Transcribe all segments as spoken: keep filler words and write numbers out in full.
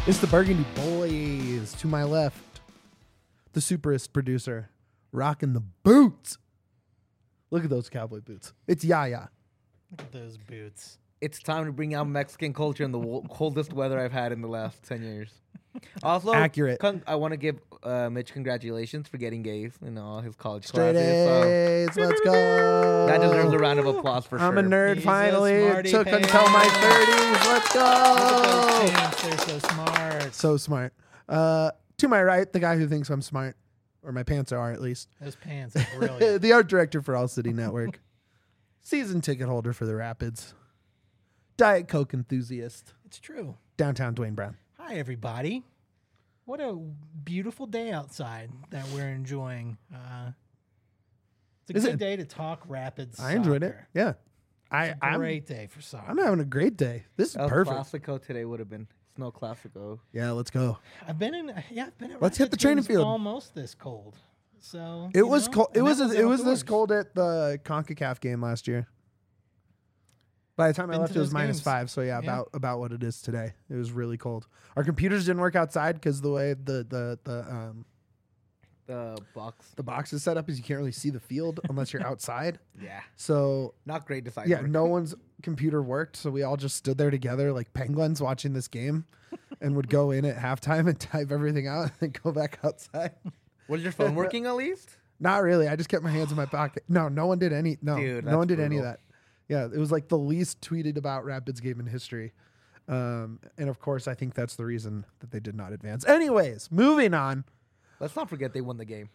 It's the Burgundy Boys. To my left, the superist producer, rocking the boots. Look at those cowboy boots. It's Yaya. Look at those boots. It's time to bring out Mexican culture in the wo- coldest weather I've had in the last ten years. Also, Accurate. Con- I want to give uh, Mitch congratulations for getting A's in all his college Straight classes. A's. Let's go. That deserves a round of applause for I'm sure. a nerd He's a finally. It smarty took pants. until my thirties. Let's Look at those go. pants. They're so smart. So smart. Uh, to my right, the guy who thinks I'm smart, or my pants are at least. Those pants are brilliant. The art director for All City Network. Season ticket holder for the Rapids. Diet Coke enthusiast. It's true. Downtown Dwayne Brown. Hi, everybody. What a beautiful day outside that we're enjoying. Uh, it's a Is good it? day to talk Rapids. I enjoyed it. soccer. Yeah. I, It's a I'm, great day for soccer. I'm having a great day. This is El perfect. Clasico today would have been Snow Clasico. Yeah, let's go. I've been in. Yeah, I've been at. Let's hit Rapids the training games field. Almost this cold. So It you was know, cold. It and was, that it was this outdoors. cold at the CONCACAF game last year. By the time I Been left, to it was those minus games. five. So yeah, Yeah. about about what it is today. It was really cold. Our computers didn't work outside because the way the the the um The box. the box is set up is you can't really see the field unless you're outside. Yeah. So Not great design. yeah, work. no one's computer worked, so we all just stood there together like penguins watching this game, and would go in at halftime and type everything out and then go back outside. Was your phone working at least? Not really. I just kept my hands in my pocket. No, no one did any. No, Dude, no that's one did any of brutal. that. Yeah, it was like the least tweeted about Rapids game in history. Um, and of course, I think that's the reason that they did not advance. Anyways, moving on. Let's not forget they won the game.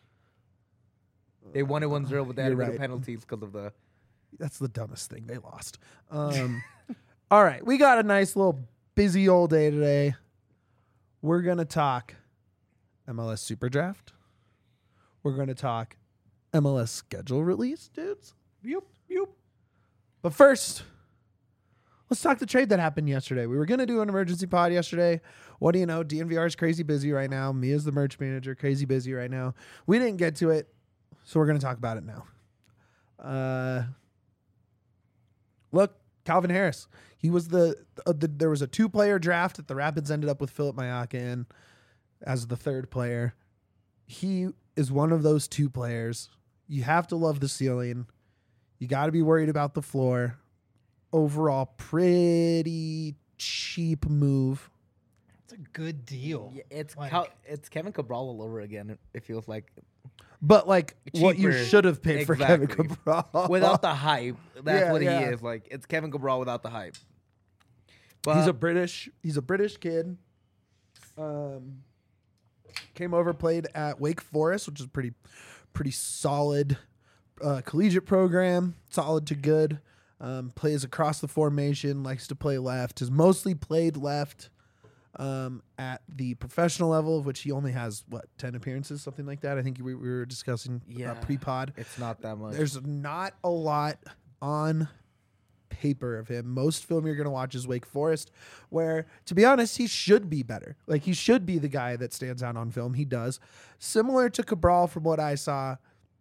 They won it one zero, but they had to You're go to right. penalties because of the... That's the dumbest thing. They lost. Um, all right, we got a nice little busy old day today. We're gonna talk M L S Super Draft. We're gonna talk M L S schedule release, dudes. Yup, yup. But first, let's talk the trade that happened yesterday. We were going to do an emergency pod yesterday. What do you know? D N V R is crazy busy right now. Mia's the merch manager, crazy busy right now. We didn't get to it, so we're going to talk about it now. Uh, look, Calvin Harris. He was the, uh, the there was a two-player draft that the Rapids ended up with Philip Mayaka in as the third player. He is one of those two players. You have to love the ceiling. You got to be worried about the floor. Overall, pretty cheap move. It's a good deal. Yeah, it's Like- Cal- it's Kevin Cabral all over again, it- it feels like. But like what you Cheaper. should have paid for Kevin Exactly. Cabral. Without the hype. That's Yeah, what yeah. he is. Like, it's Kevin Cabral without the hype. But he's a British. He's a British kid. Um, came over, played at Wake Forest, which is pretty, pretty solid uh, collegiate program. Solid to good. Um, plays across the formation. Likes to play left. Has mostly played left um, at the professional level, of which he only has what ten appearances, something like that. I think we, we were discussing Yeah. uh, pre-pod. it's not that much. There's not a lot on paper of him. Most film you're going to watch is Wake Forest, where, to be honest, he should be better. Like, he should be the guy that stands out on film. He does. Similar to Cabral from what I saw.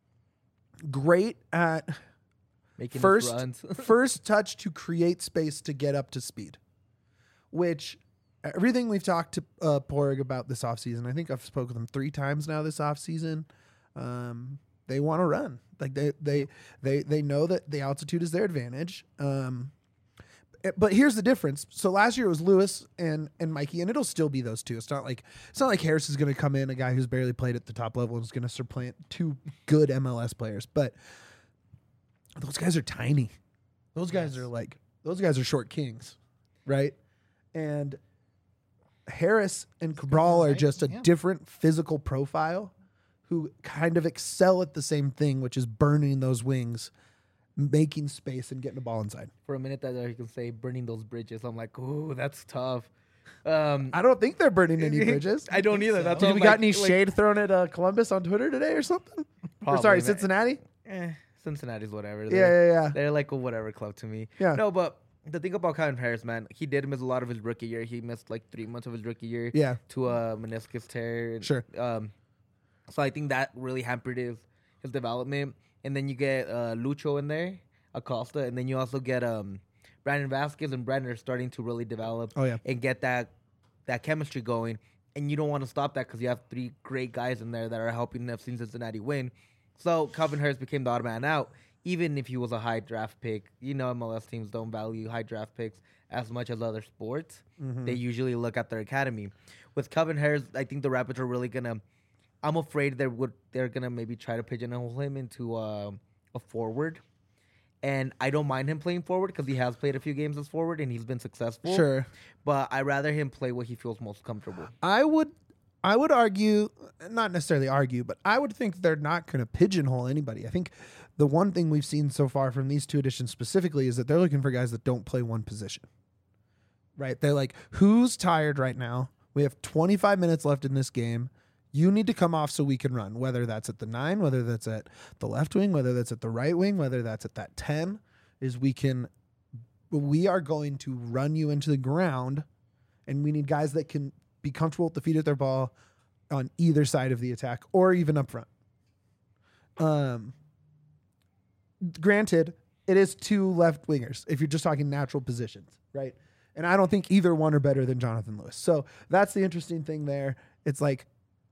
Great at Making his first, runs. first touch to create space to get up to speed, which everything we've talked to uh, Porg about this offseason, I think I've spoken with him three times now this offseason. Um, they want to run. Like they, they, they, they know that the altitude is their advantage. Um, eh, but here's the difference. So last year it was Lewis and, and Mikey, and it'll still be those two. It's not like, it's not like Harris is going to come in, a guy who's barely played at the top level, and is going to supplant two good M L S players. But those guys are tiny. Those guys Yes. are like, those guys are short kings, right? And Harris and Cabral are right, just a yeah. different physical profile who kind of excel at the same thing, which is burning those wings, making space, and getting the ball inside. For a minute that you can say burning those bridges. I'm like, ooh, that's tough. Um, I don't think they're burning any bridges. I don't either. so. That's Did what we I'm got like- any like, shade thrown at uh, Columbus on Twitter today or something? Or probably, sorry, man. Cincinnati? Eh, Cincinnati's whatever. Yeah, They're, yeah, yeah. they're like a whatever club to me. Yeah. No, but the thing about Calvin Harris, man, he did miss a lot of his rookie year. He missed like three months of his rookie year Yeah, to a meniscus tear. and, Sure. Um, so I think that really hampered his his development. And then you get uh, Lucho in there, Acosta, and then you also get um, Brandon Vasquez and Brandon are starting to really develop Oh, yeah. and get that that chemistry going. And you don't want to stop that because you have three great guys in there that are helping F C Cincinnati win. So Calvin Harris became the odd man out, even if he was a high draft pick. You know, M L S teams don't value high draft picks as much as other sports. Mm-hmm. They usually look at their academy. With Calvin Harris, I think the Rapids are really gonna. I'm afraid they would. They're gonna maybe try to pigeonhole him into uh, a forward. And I don't mind him playing forward because he has played a few games as forward and he's been successful. Sure. But I'd rather him play what he feels most comfortable. I would I would argue, not necessarily argue, but I would think they're not going to pigeonhole anybody. I think the one thing we've seen so far from these two editions specifically is that they're looking for guys that don't play one position. Right? They're like, who's tired right now? We have twenty-five minutes left in this game. You need to come off so we can run, whether that's at the nine, whether that's at the left wing, whether that's at the right wing, whether that's at that ten, is we can, we are going to run you into the ground, and we need guys that can be comfortable with the feet of their ball on either side of the attack or even up front. Um, granted, it is two left wingers if you're just talking natural positions, right? And I don't think either one are better than Jonathan Lewis. So that's the interesting thing there. It's like,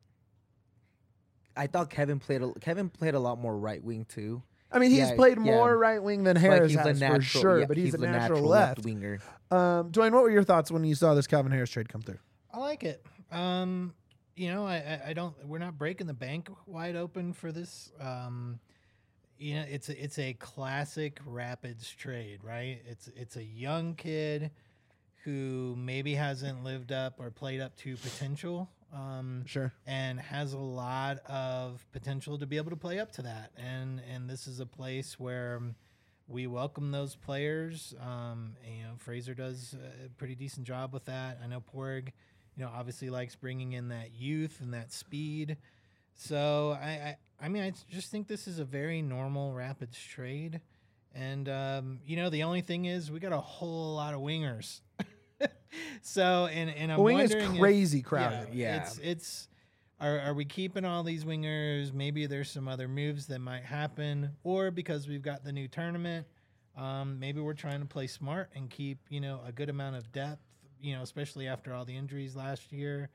I thought Kevin played a, Kevin played a lot more right wing too. I mean, he's Yeah, played yeah. more right wing than Like, Harris he's a has natural, for sure, yeah, but he's, a the natural, left. winger. Um, Dwayne, what were your thoughts when you saw this Calvin Harris trade come through? I like it. Um, you know, I, I, I don't. We're not breaking the bank wide open for this. Um, you know, it's a, it's a classic Rapids trade, right? It's it's a young kid who maybe hasn't lived up or played up to potential. Um, Sure. and has a lot of potential to be able to play up to that. And and this is a place where we welcome those players. Um, and, you know, Fraser does a pretty decent job with that. I know Porg, you know, obviously likes bringing in that youth and that speed. So I, I, I mean, I just think this is a very normal Rapids trade. And um, you know, the only thing is we got a whole lot of wingers. So and and I'm The wing is wondering if- crazy crowded. Yeah. It's it's are are we keeping all these wingers? Maybe there's some other moves that might happen, or because we've got the new tournament, um, maybe we're trying to play smart and keep, you know, a good amount of depth, you know, especially after all the injuries last year.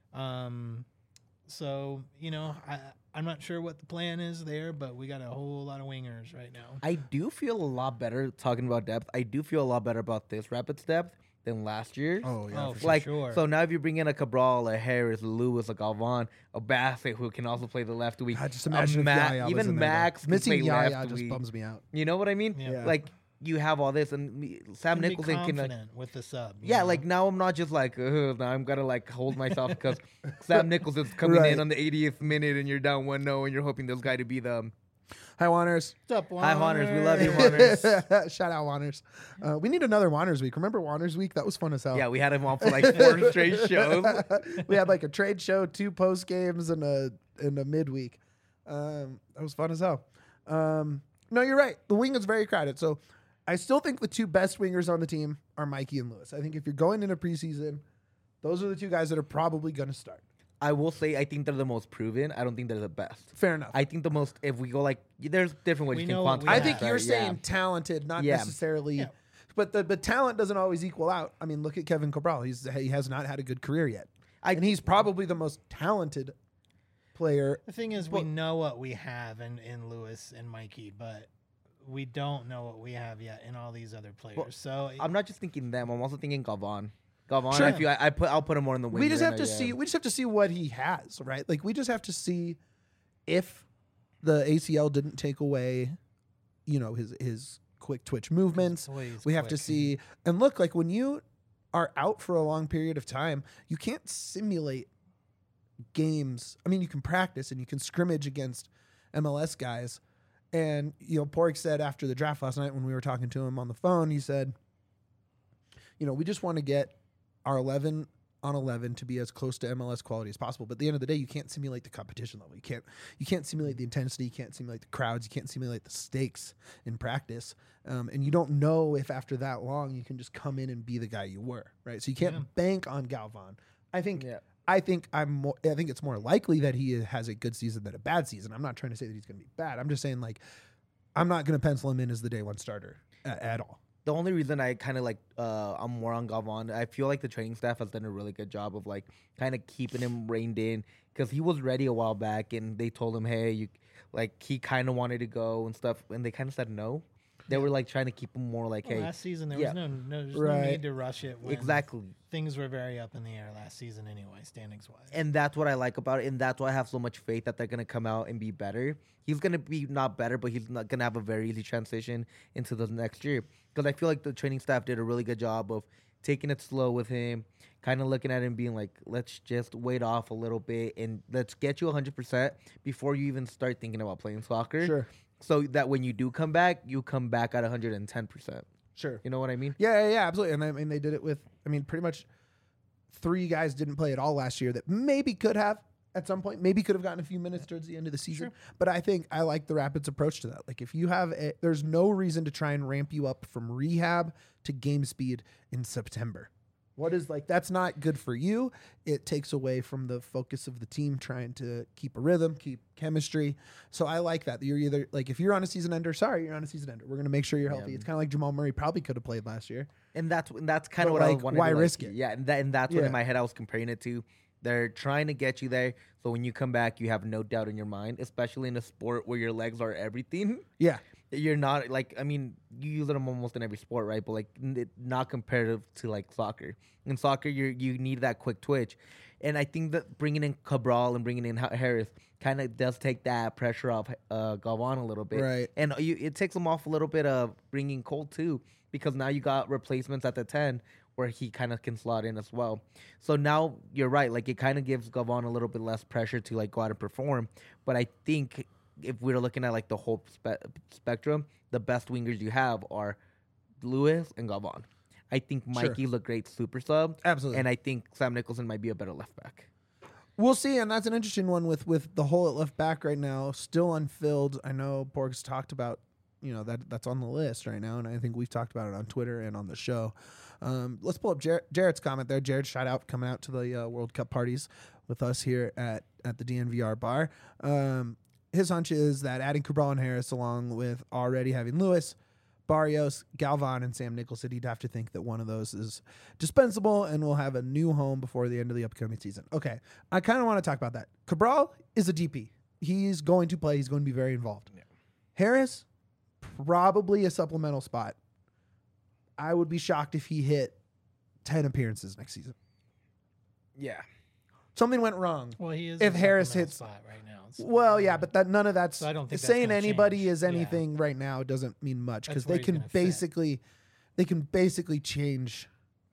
Um, so you know, I I'm not sure what the plan is there, but we got a whole lot of wingers right now. I do feel a lot better talking about depth. I do feel a lot better about this Rapids depth than last year. Oh, yeah. Oh, for for like sure. so now if you bring in a Cabral, a Harris, a Lewis, a Galvan, a Bassett who can also play the left wing. I just a imagine if Ma- Yaya was even in there, though. Max can Missing play Yaya left just wing. bums me out. You know what I mean? Yeah. Yeah. Like you have all this, and me- Sam Can be Nicholson can. Like, confident with the sub. you yeah, know? like now I'm not just like uh, now I'm gonna like hold myself because Sam Nicholson's coming Right. in on the eightieth minute and you're down one zero and you're hoping this guy to be the. Hi, Wanners. What's up, Hi, Juaners. We love you, Juaners? Juaners. Shout out Wanners. Uh, we need another Wanners week. Remember Wanners week? That was fun as hell. Yeah, we had him on for like four straight shows. We had like a trade show, two post games, and a and a midweek. Um, that was fun as hell. Um, no, you're right. The wing is very crowded. So I still think the two best wingers on the team are Mikey and Lewis. I think if you're going into preseason, those are the two guys that are probably going to start. I will say I think they're the most proven. I don't think they're the best. Fair enough. I think the most if we go like there's different ways We you can know what quantify. we I have. think that, you're right? saying Yeah. talented, not Yeah. necessarily. Yeah. But the but talent doesn't always equal out. I mean, look at Kevin Cabral. He's he has not had a good career yet, I- and he's probably the most talented player. The thing is, Well- we know what we have in, in Lewis and Mikey, but we don't know what we have yet in all these other players. Well, so I'm not just thinking them. I'm also thinking Galvan. Galvan. Sure. I feel I, I put I'll put him more in the wing. We just right have now, to yeah. see. We just have to see what he has, right? Like we just have to see if the A C L didn't take away, you know, his his quick twitch movements. boy is We have to quick. see and look like when you are out for a long period of time, you can't simulate games. I mean, you can practice and you can scrimmage against M L S guys. And you know, Pork said after the draft last night when we were talking to him on the phone, he said, you know, we just want to get our eleven on eleven to be as close to M L S quality as possible. But at the end of the day, you can't simulate the competition level. You can't you can't simulate the intensity. You can't simulate the crowds. You can't simulate the stakes in practice. Um, and you don't know if after that long you can just come in and be the guy you were, right? So you can't Yeah. bank on Galvan. I think Yeah. I think I'm more. I think it's more likely that he has a good season than a bad season. I'm not trying to say that he's going to be bad. I'm just saying like I'm not going to pencil him in as the day one starter at, at all. the only reason I kind of like uh I'm more on Galvan, I feel like the training staff has done a really good job of like kind of keeping him reined in because he was ready a while back and they told him, hey, you like he kind of wanted to go and stuff, and they kind of said no. They were like trying to keep him more like, Well, hey, last season there yeah. was no no, there's no Right. need to rush it. When exactly. Things were very up in the air last season anyway, standings wise. And that's what I like about it, and that's why I have so much faith that they're gonna come out and be better. He's gonna be not better, but he's not gonna have a very easy transition into the next year. Because I feel like the training staff did a really good job of taking it slow with him, kind of looking at him, being like, let's just wait off a little bit and let's get you one hundred percent before you even start thinking about playing soccer. Sure. So that when you do come back, you come back at one hundred ten percent. Sure. You know what I mean? Yeah, yeah, yeah, absolutely. And I mean, they did it with, I mean, pretty much three guys didn't play at all last year that maybe could have at some point, maybe could have gotten a few minutes towards the end of the season. Sure. But I think I like the Rapids' approach to that. Like, if you have, a, there's no reason to try and ramp you up from rehab to game speed in September. What is like, that's not good for you. It takes away from the focus of the team trying to keep a rhythm, keep chemistry. So I like that. You're either like, if you're on a season ender, sorry, you're on a season ender. We're going to make sure you're healthy. Yeah. It's kind of like Jamal Murray probably could have played last year. And that's and that's kind But, of what like, I wanted why to like, risk it? Yeah, and that and that's what Yeah. in my head I was comparing it to. They're trying to get you there, so when you come back, you have no doubt in your mind, especially in a sport where your legs are everything. Yeah. You're not like, I mean, you use them almost in every sport, right? But like, n- not comparative to like soccer. In soccer, you you need that quick twitch, and I think that bringing in Cabral and bringing in Ha- Harris kind of does take that pressure off uh, Galvan a little bit, Right. And you, it takes him off a little bit of bringing Cole too, because now you got replacements at the ten where he kind of can slot in as well. So now you're right, like it kind of gives Galvan a little bit less pressure to like go out and perform. But I think if we're looking at like the whole spe- spectrum, the best wingers you have are Lewis and Galvan. I think Sure. Mikey's a great super sub, Absolutely. and I think Sam Nicholson might be a better left back. We'll see, and that's an interesting one with with the hole at left back right now, still unfilled. I know Borg's talked about, you know, that that's on the list right now, and I think we've talked about it on Twitter and on the show. Um, let's pull up Jar- Jared's comment there. Jared, shout out coming out to the uh, World Cup parties with us here at at the D N V R bar. Um, his hunch is that adding Cabral and Harris, along with already having Lewis, Barrios, Galvan, and Sam Nicholson, he'd have to think that one of those is dispensable and will have a new home before the end of the upcoming season. Okay, I kind of want to talk about that. Cabral is a D P. He's going to play. He's going to be very involved. Yeah. Harris, probably a supplemental spot. I would be shocked if he hit ten appearances next season. Yeah. Something went wrong. Well, he is If a Harris supplemental hits- spot right now. so- Well, yeah, but that none of that's So I don't think that's saying gonna anybody change. is Yeah. anything right now doesn't mean much because That's where they he's can gonna fit. basically they can basically change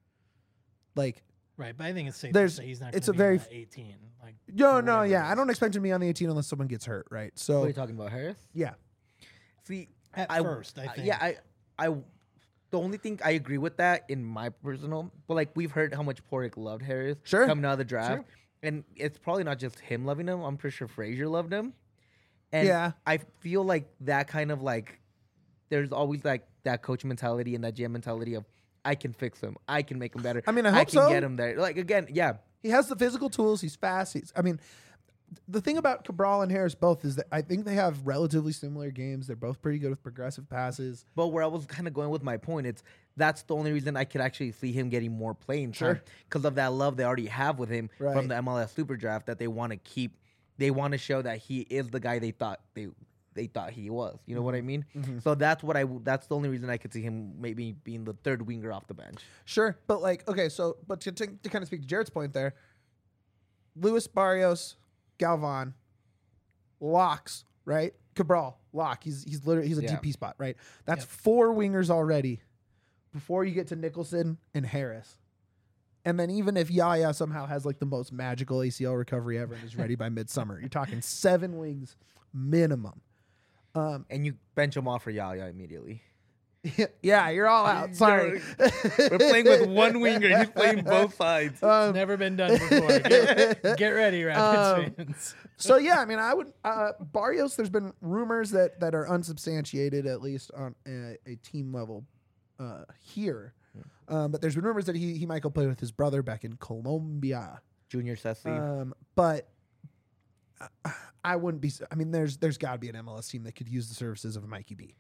like right, but I think it's safe There's- to say he's not. it's gonna a be very on that eighteen. Like no or no whatever yeah it I is. don't expect him to be on the eighteen unless someone gets hurt, right? What are So you talking about, Harris? yeah, See, At I- first, I uh, think. yeah, I, I, the only thing I agree with that in my personal, but like we've heard how much Porrick loved Harris Sure. coming out of the draft, Sure. and it's probably not just him loving him. I'm pretty sure Frazier loved him, and Yeah. I feel like that kind of like there's always like that coach mentality and that G M mentality of I can fix him, I can make him better. I mean, I I hope can so. get him there. Like again, yeah, he has the physical tools. He's fast. He's I mean. The thing about Cabral and Harris both is that I think they have relatively similar games. They're both pretty good with progressive passes. But where I was kind of going with my point, it's that's the only reason I could actually see him getting more playing time Sure. because of that love they already have with him Right. from the M L S Super Draft that they want to keep. They want to show that he is the guy they thought they they thought he was. You know what I mean? Mhm. So that's what I. That's the only reason I could see him maybe being the third winger off the bench. Sure, but like, okay, so but to, to, to kind of speak to Jared's point there, Luis Barrios, Galvan, locks, right? Cabral, lock. He's he's literally he's a Yeah. D P spot, right? That's Yep. four wingers already before you get to Nicholson and Harris. And then even if Yaya somehow has like the most magical A C L recovery ever and is ready by midsummer, you're talking seven wings minimum. Um, And you bench him off for Yaya immediately. yeah, you're all out. Sorry. We're playing with one winger. He's playing both sides. Um, It's never been done before. Get, get ready, Rapids Um, fans. so yeah, I mean, I would uh, Barrios. There's been rumors that that are unsubstantiated, at least on a, a team level uh, here. Um, but there's been rumors that he he might go play with his brother back in Colombia. Junior Sessi. Um, but I, I wouldn't be. I mean, there's there's got to be an M L S team that could use the services of Mikey B.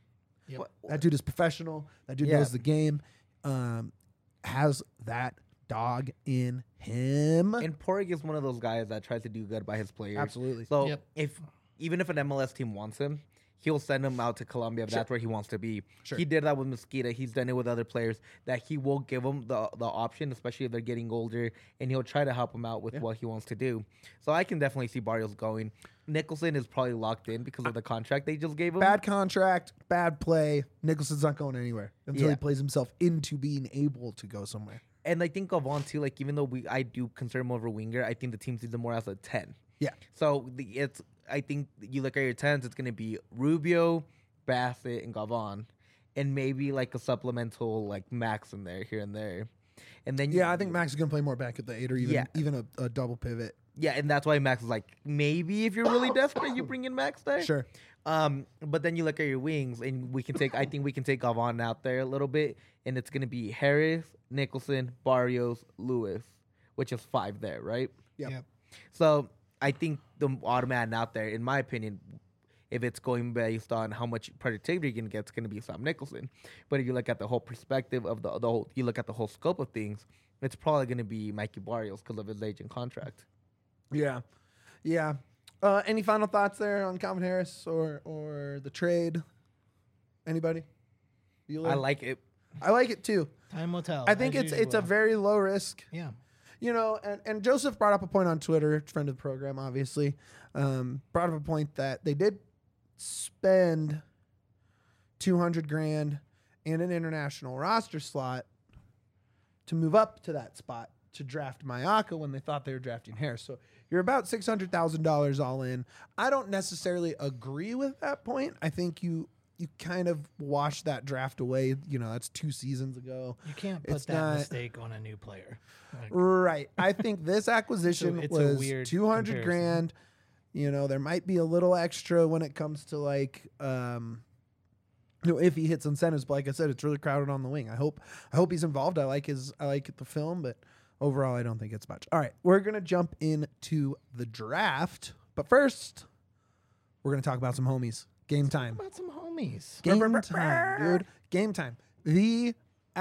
Yep. What- That dude is professional. That dude Yeah. knows the game. Um, has that dog in him. And Porig is one of those guys that tries to do good by his players. Absolutely. So Yep. if even if an M L S team wants him, he'll send him out to Colombia if Sure. that's where he wants to be. Sure. He did that with Mosquita. He's done it with other players that he will give them the the option, especially if they're getting older, and he'll try to help them out with Yeah. what he wants to do. So I can definitely see Barrios going. Nicholson is probably locked in because of the contract they just gave him. Bad contract, bad play. Nicholson's not going anywhere until Yeah. he plays himself into being able to go somewhere. And I think Gavon too. Like even though we I do consider him over winger, I think the team sees him more as a ten. Yeah. So the, it's I think you look at your tens, it's gonna be Rubio, Bassett, and Gavon, and maybe like a supplemental like Max in there here and there, and then you, Yeah, I think Max is going to play more back at the eight or even Yeah. even a, a double pivot. yeah, and that's why Max is like maybe if you're really desperate, you bring in Max there. Sure. Um, but then you look at your wings, and we can take. I think we can take Gavon out there a little bit, and it's gonna be Harris, Nicholson, Barrios, Lewis, which is five there, right? Yep. Yep. So I think the odd man out there, in my opinion, if it's going based on how much productivity you can get, it's going to be Sam Nicholson. But if you look at the whole perspective of the, the whole, you look at the whole scope of things, it's probably going to be Mikey Barrios because of his age and contract. Yeah. Yeah. Uh, any final thoughts there on Calvin Harris or or the trade? Anybody? You I like it. I like it too. Time will tell. I think as it's it's a usual. very low risk. yeah. You know, and, and Joseph brought up a point on Twitter, friend of the program, obviously, um, brought up a point that they did spend two hundred grand and an international roster slot to move up to that spot to draft Mayaka when they thought they were drafting Harris. So you're about six hundred thousand dollars all in. I don't necessarily agree with that point. I think you you kind of wash that draft away. You know, that's two seasons ago. You can't put It's that not- mistake on a new player. Like, Right. I think this acquisition it's a was weird two hundred comparison. grand. You know, there might be a little extra when it comes to like, um, you know, if he hits incentives. But like I said, it's really crowded on the wing. I hope, I hope he's involved. I like his, I like the film, but overall, I don't think it's much. All right, we're gonna jump into the draft, but first, we're gonna talk about some homies. Game time. How about some homies? Game time, dude. Game time. The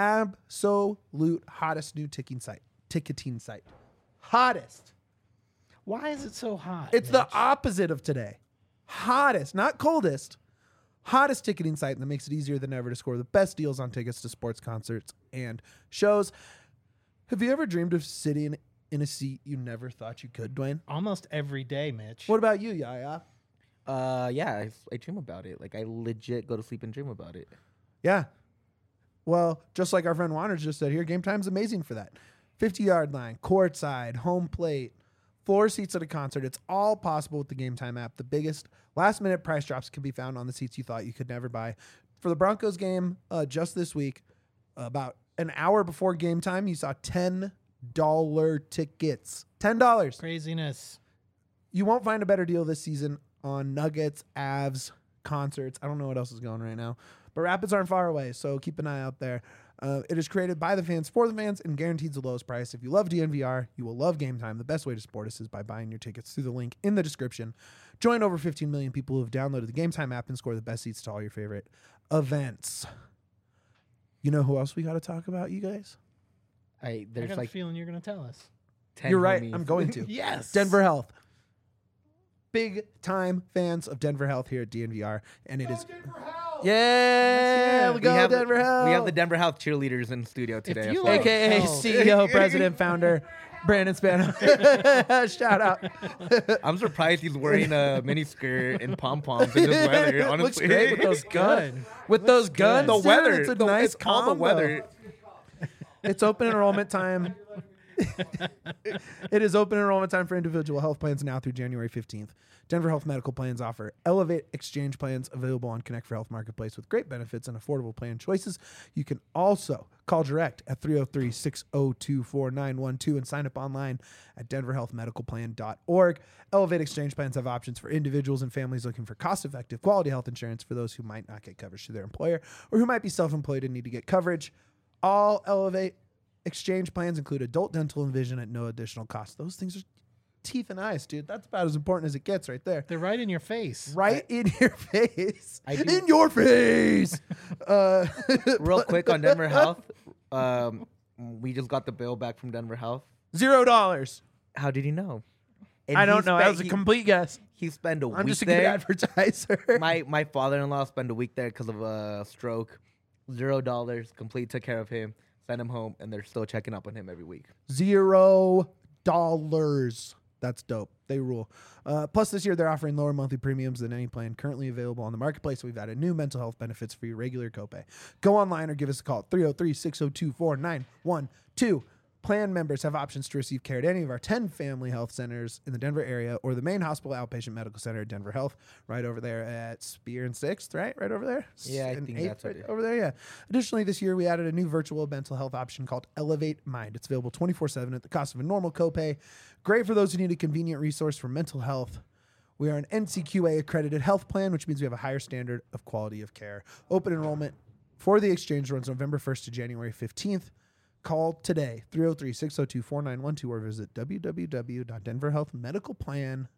absolute hottest new ticking site. Ticketing site. Hottest. Why is it so hot? It's the Mitch? opposite of today. Hottest, not coldest. Hottest ticketing site that makes it easier than ever to score the best deals on tickets to sports, concerts, and shows. Have you ever dreamed of sitting in a seat you never thought you could, Dwayne? almost every day, Mitch. What about you, Yaya? Uh, yeah, I, I dream about it. Like I legit go to sleep and dream about it. Yeah. Well, just like our friend Wanners just said here, Game Time's amazing for that. fifty-yard line, courtside, home plate, floor seats at a concert. It's all possible with the Game Time app. The biggest last-minute price drops can be found on the seats you thought you could never buy. For the Broncos game uh, just this week, about an hour before game time, you saw ten dollars tickets. ten dollars. Craziness. You won't find a better deal this season on Nuggets, Avs, concerts. I don't know what else is going right now, but Rapids aren't far away, so keep an eye out there. Uh, it is created by the fans for the fans and guarantees the lowest price. If you love D N V R, you will love Game Time. The best way to support us is by buying your tickets through the link in the description. Join over fifteen million people who have downloaded the Game Time app and score the best seats to all your favorite events. You know who else we got to talk about, you guys? I I there's got like a feeling you're going to tell us. ten. You're right. homies. I'm going to. Yes. Denver Health. Big time fans of Denver Health here at D N V R, and it is. Yeah, we go we have, Denver Health. We have the Denver Health cheerleaders in studio today. you as well. like- A K A Oh. C E O, President, Founder, Brandon Spano. Shout out. I'm surprised he's wearing a mini skirt and pom poms in this weather. Honestly, Looks great with those guns. Good. With those guns, The dude, weather. It's a the, nice it's all the combo. weather. It's open enrollment time. It is open enrollment time for individual health plans now through January fifteenth. Denver Health Medical Plans offer Elevate Exchange plans available on Connect for Health Marketplace with great benefits and affordable plan choices. You can also call direct at three oh three, six oh two, four nine one two and sign up online at denver health medical plan dot org. Elevate Exchange plans have options for individuals and families looking for cost-effective quality health insurance for those who might not get coverage through their employer or who might be self-employed and need to get coverage. All Elevate Exchange plans include adult dental and vision at no additional cost. Those things are teeth and eyes, dude. That's about as important as it gets right there. They're right in your face. Right I, in your face. I do- in your face. uh, Real quick on Denver Health. Um, we just got the bill back from Denver Health. Zero dollars. How did he know? And I he don't know. That spent- was a he- complete guess. He spent a I'm week just a good there. advertiser. my my father-in-law spent a week there because of a stroke. Zero dollars. Complete took care of him. Sent him home, and they're still checking up on him every week. Zero dollars. That's dope. They rule. Uh, plus, this year they're offering lower monthly premiums than any plan currently available on the marketplace. We've added new mental health benefits for your regular copay. Go online or give us a call at three oh three, six oh two, four nine one two. Plan members have options to receive care at any of our ten family health centers in the Denver area or the main hospital outpatient medical center at Denver Health, right over there at Spear and sixth, right? Right over there? Yeah, I And think eighth, that's what right it is. over there, yeah. Additionally, this year we added a new virtual mental health option called Elevate Mind. It's available twenty-four seven at the cost of a normal copay. Great for those who need a convenient resource for mental health. We are an N C Q A accredited health plan, which means we have a higher standard of quality of care. Open enrollment for the exchange runs November first to January fifteenth. Call today, three oh three, six oh two, four nine one two, or visit w w w dot denver health medical plan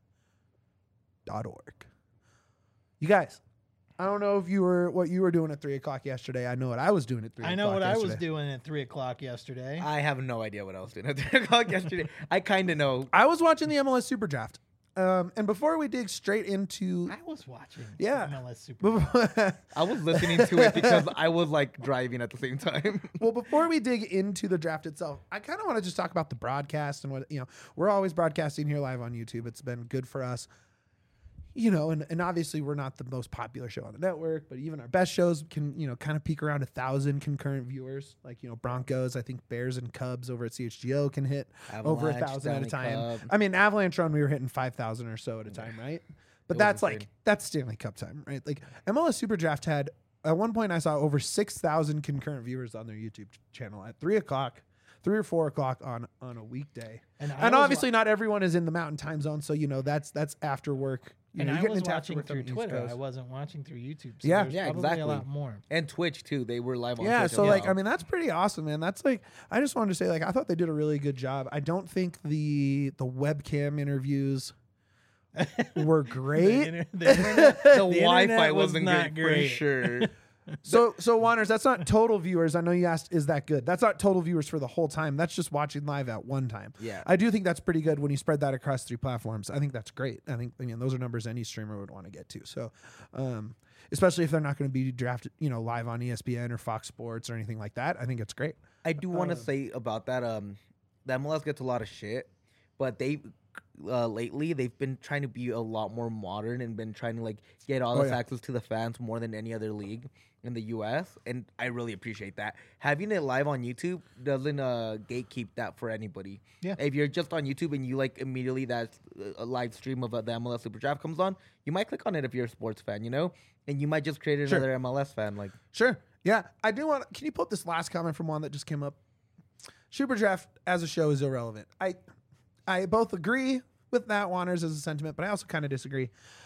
dot org. You guys, I don't know if you were what you were doing at three o'clock yesterday. I know what I was doing at three I o'clock know what I was yesterday. doing at three o'clock yesterday. I have no idea what I was doing at three o'clock yesterday. I kind of know. I was watching the M L S Super Draft. Um, and before we dig straight into... I was watching. Yeah. M L S Super. before- I was listening to it because I was like driving at the same time. Well, before we dig into the draft itself, I kind of want to just talk about the broadcast and what, you know, we're always broadcasting here live on YouTube. It's been good for us, you know, and, and obviously we're not the most popular show on the network, but even our best shows can, you know, kind of peak around a thousand concurrent viewers. Like, you know, Broncos, I think Bears and Cubs over at C H G O can hit over a Avalanche, thousand at a Stanley time. Cup. I mean, Avalanche Run, we were hitting five thousand or so at a time, right? But It was that's like, insane. that's Stanley Cup time, right? Like M L S Super Draft had, at one point I saw over six thousand concurrent viewers on their YouTube ch- channel at three o'clock, three or four o'clock on, on a weekday. And, I And was obviously not everyone is in the mountain time zone. So, you know, that's, that's after work. You And know, I you're was getting into after watching work on through the East Twitter. Coast. I wasn't watching through YouTube. So Yeah. there's Yeah, probably exactly. a lot more. And Twitch too. They were live on Yeah, Twitch so as like well. I mean that's pretty awesome, man. That's like I just wanted to say like I thought they did a really good job. I don't think the the webcam interviews were The, great. inter- the internet, the the Wi-Fi internet was wasn't not great, great. for sure. So so Wanners, that's not total viewers. I know you asked is that good? That's not total viewers for the whole time. That's just watching live at one time. Yeah. I do think that's pretty good when you spread that across three platforms. I think that's great. I think I mean those are numbers any streamer would want to get to. So um especially if they're not going to be drafted, you know, live on E S P N or Fox Sports or anything like that. I think it's great. I do want to Uh, say about that. Um, the M L S gets a lot of shit, but they uh, lately they've been trying to be a lot more modern and been trying to like get all Oh, this yeah. access to the fans more than any other league in the U S. And I really appreciate that. Having it live on YouTube doesn't uh, gatekeep that for anybody. Yeah. If you're just on YouTube and you like immediately that uh, a live stream of uh, the M L S Super Draft comes on, you might click on it if you're a sports fan, you know, and you might just create Sure. another M L S fan. Like, Sure. Yeah. I do want can you put this last comment from one that just came up? Super Draft as a show is irrelevant. I I both agree with that Wanners as a sentiment, but I also kind of disagree.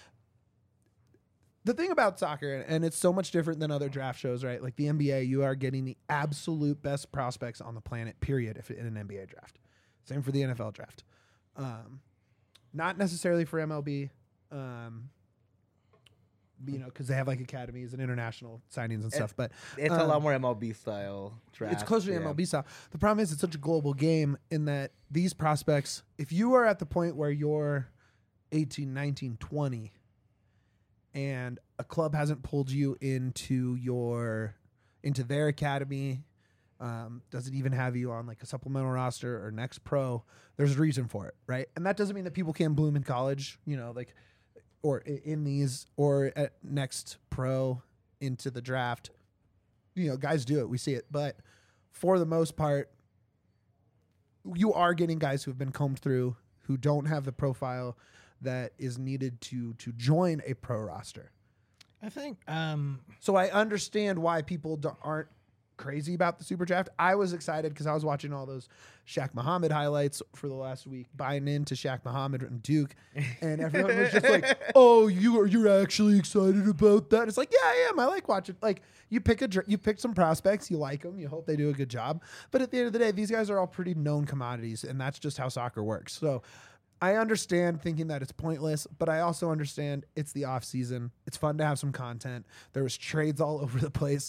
The thing about soccer, and it's so much different than other draft shows, right? Like the N B A, you are getting the absolute best prospects on the planet, period, if in an N B A draft. Same for the N F L draft. Um, not necessarily for M L B. Um, you know, because they have like academies and international signings and stuff. But it's a um, lot more M L B style draft. it's closer to yeah. M L B style. The problem is it's such a global game in that these prospects, if you are at the point where you're eighteen, nineteen, twenty, and a club hasn't pulled you into your into their academy, um, doesn't even have you on like a supplemental roster or next pro, there's a reason for it, right? And that doesn't mean that people can't bloom in college, you know, like or i- in these or at next pro into the draft. You know, guys do it. We see it. But for the most part, you are getting guys who have been combed through, who don't have the profile that is needed to to join a pro roster. I think um, So I understand why people do- aren't crazy about the super draft. I was excited because I was watching all those Shaq Muhammad highlights for the last week, buying into Shaq Muhammad and Duke, and everyone was just like, "Oh, you are you're actually excited about that?" It's like, yeah, I am. I like watching. Like you pick a dr- you pick some prospects, you like them, you hope they do a good job. But at the end of the day, these guys are all pretty known commodities, and that's just how soccer works. So I understand thinking that it's pointless, but I also understand it's the off season. It's fun to have some content. There was trades all over the place.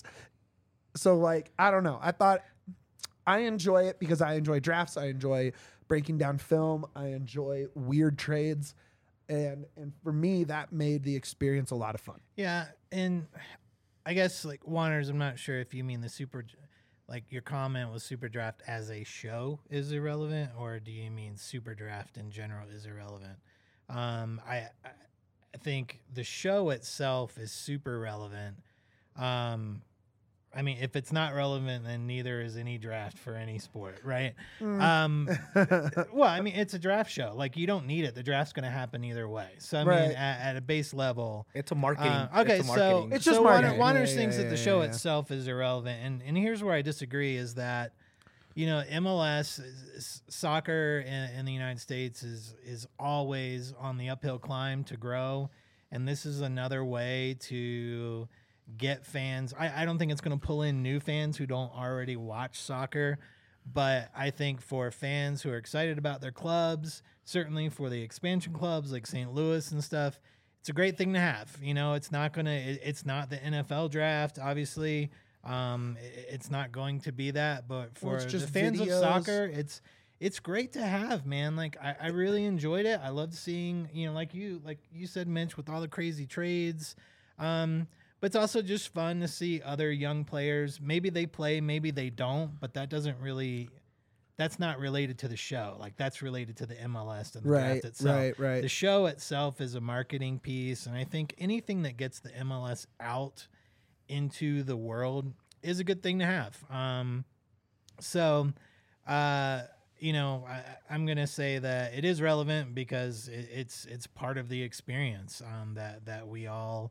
So like, I don't know. I thought I enjoy it because I enjoy drafts. I enjoy breaking down film. I enjoy weird trades. And and for me, that made the experience a lot of fun. Yeah, and I guess like Wanners, I'm not sure if you mean the super, like your comment was super draft as a show is irrelevant, or do you mean super draft in general is irrelevant? Um, I I think the show itself is super relevant. Um, I mean, if it's not relevant, then neither is any draft for any sport, right? Mm. Um, well, I mean, it's a draft show. Like, you don't need it. The draft's going to happen either way. So, I Right. mean, at, at a base level, It's a marketing. uh, okay, it's a so marketing. It's just so marketing. Warner, Warner's Yeah, thinks yeah, that the yeah, show yeah. itself is irrelevant, and and here's where I disagree: is that you know M L S is, is soccer in, in the United States is is always on the uphill climb to grow, and this is another way to get fans. I, I don't think it's going to pull in new fans who don't already watch soccer, but I think for fans who are excited about their clubs, certainly for the expansion clubs like Saint Louis and stuff, it's a great thing to have. You know, it's not going to, it, it's not the N F L draft, obviously. Um, it, it's not going to be that, but for Well, it's the just fans videos. of soccer, it's, it's great to have, man. Like I, I really enjoyed it. I loved seeing, you know, like you, like you said, Mitch, with all the crazy trades. Um, But it's also just fun to see other young players. Maybe they play, maybe they don't, but that doesn't really, that's not related to the show. Like, that's related to the M L S and the Right, draft itself. right, right. The show itself is a marketing piece, and I think anything that gets the M L S out into the world is a good thing to have. Um, so, uh, you know, I, I'm gonna say that it is relevant because it, it's it's part of the experience um, that that we all,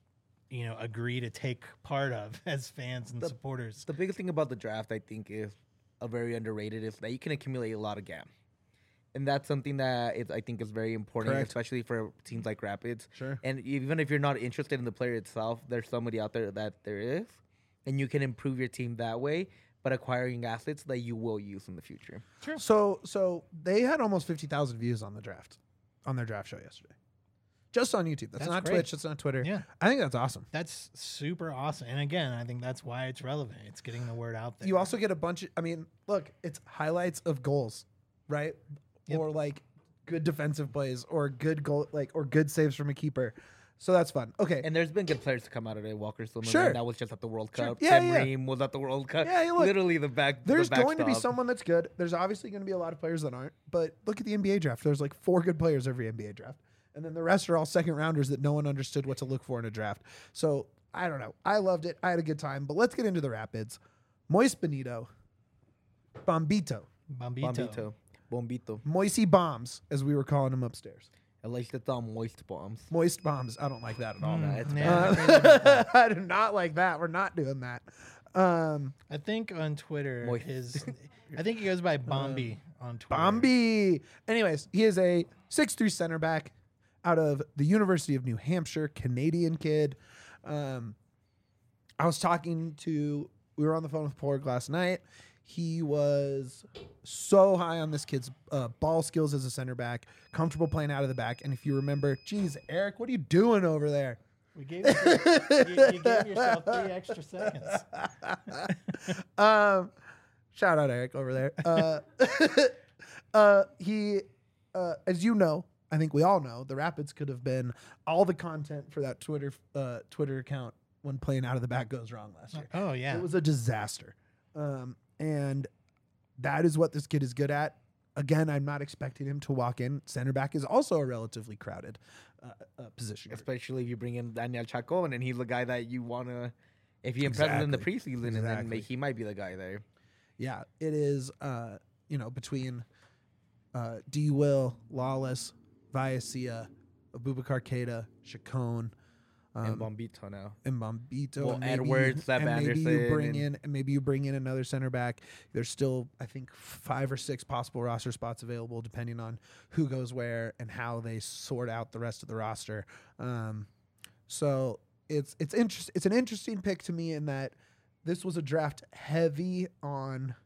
you know, agree to take part of as fans and The- supporters. The biggest thing about the draft, I think, is a very underrated is that you can accumulate a lot of gam, and that's something that is, I think, is very important, Correct. especially for teams like Rapids. Sure. And even if you're not interested in the player itself, there's somebody out there that there is, and you can improve your team that way, but acquiring assets that you will use in the future. So so they had almost fifty thousand views on the draft, on their draft show yesterday. Just on YouTube. That's, That's not great. Twitch. That's not Twitter. Yeah. I think that's awesome. That's super awesome. And again, I think that's why it's relevant. It's getting the word out there. You also get a bunch of, I mean, look, it's highlights of goals, right? Yep. Or like good defensive plays or good goal, like, or good saves from a keeper. So that's fun. Okay. And there's been good players to come out of it. Walker Zimmerman, Sure. that was just at the World Sure. Cup. Yeah, Tim yeah. Ream was at the World Cup. Yeah, you look- Literally the back. the There's going to be backstop. someone that's good. There's obviously going to be a lot of players that aren't. But look at the N B A draft. There's like four good players every N B A draft. And then the rest are all second rounders that no one understood what to look for in a draft. So I don't know. I loved it. I had a good time. But let's get into the Rapids. Moist Benito. Bombito. Bombito. Bombito. Bombito. Moisey Bombs, as we were calling him upstairs. At least it's on moist bombs. Moist Bombs. I don't like that at all. Mm, it's yeah, Uh, I'm crazy about that. I do not like that. We're not doing that. Um, I think on Twitter, Moist. his, I think he goes by Bombi on Twitter. Bombi. Anyways, he is a six three center back out of the University of New Hampshire, Canadian kid. Um, I was talking to, we were on the phone with Porg last night. He was so high on this kid's uh, ball skills as a center back, comfortable playing out of the back. And if you remember, geez, Eric, what are you doing over there? We gave you, you, you gave yourself three extra seconds. um, shout out Eric over there. Uh, uh, he, uh, as you know, I think we all know, the Rapids could have been all the content for that Twitter uh, Twitter account when playing out of the back goes wrong last year. Oh yeah, It was a disaster. Um, and that is what this kid is good at. Again, I'm not expecting him to walk in. Center back is also a relatively crowded uh, uh, position. Especially if you bring in Daniel Chacon, and he's the guy that you want to, if he impresses in the Exactly. preseason, and then Exactly. may, he might be the guy there. Yeah, it is, uh, you know, between uh, D. Will, Lawless, Viacia, Abubakar Keita, Chacon, and um, Bombito now. and Bombito. Well, and maybe Edwards, you, Seb and maybe you Anderson, bring and- in, and maybe you bring in another center back. There's still, I think, five or six possible roster spots available, depending on who goes where and how they sort out the rest of the roster. Um, so it's it's interest, It's an interesting pick to me in that this was a draft heavy on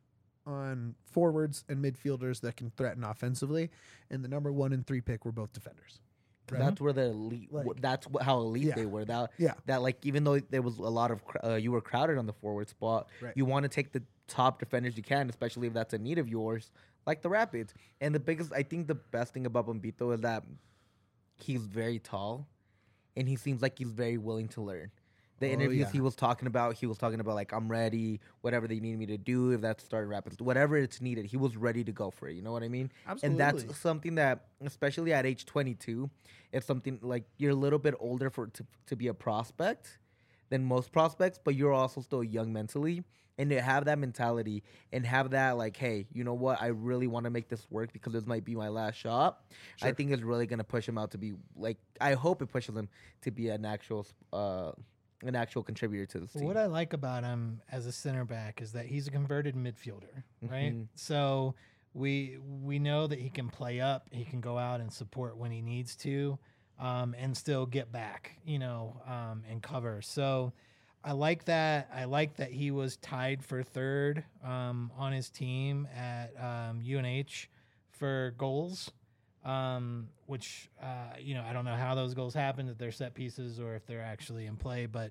on forwards and midfielders that can threaten offensively, and the number one and three pick were both defenders. 'Cause Right. that's where the elite. Like- that's wh- how elite Yeah. they were. That Yeah. that like even though there was a lot of cr- uh, you were crowded on the forward spot, Right. you want to take the top defenders you can, especially if that's a need of yours, like the Rapids. And the biggest, I think, the best thing about Bombito is that he's very tall, and he seems like he's very willing to learn. The Oh, interviews yeah. he was talking about, he was talking about like I'm ready, whatever they need me to do, if that's starting Rapids, whatever it's needed, he was ready to go for it. You know what I mean? Absolutely. And that's something that, especially at age twenty-two, it's something like you're a little bit older for to, to be a prospect than most prospects, but you're also still young mentally. And to have that mentality and have that like, hey, you know what? I really want to make this work because this might be my last shot. I Sure. think is really gonna push him out to be like. I hope it pushes him to be an actual, uh, an actual contributor to this team. What I like about him as a center back is that he's a converted midfielder, right? Mhm. So we we know that he can play up, he can go out and support when he needs to, um, and still get back, you know, um, and cover. So I like that. I like that he was tied for third um, on his team at um, U N H for goals. Um, which uh, you know, I don't know how those goals happened, if they're set pieces or if they're actually in play, but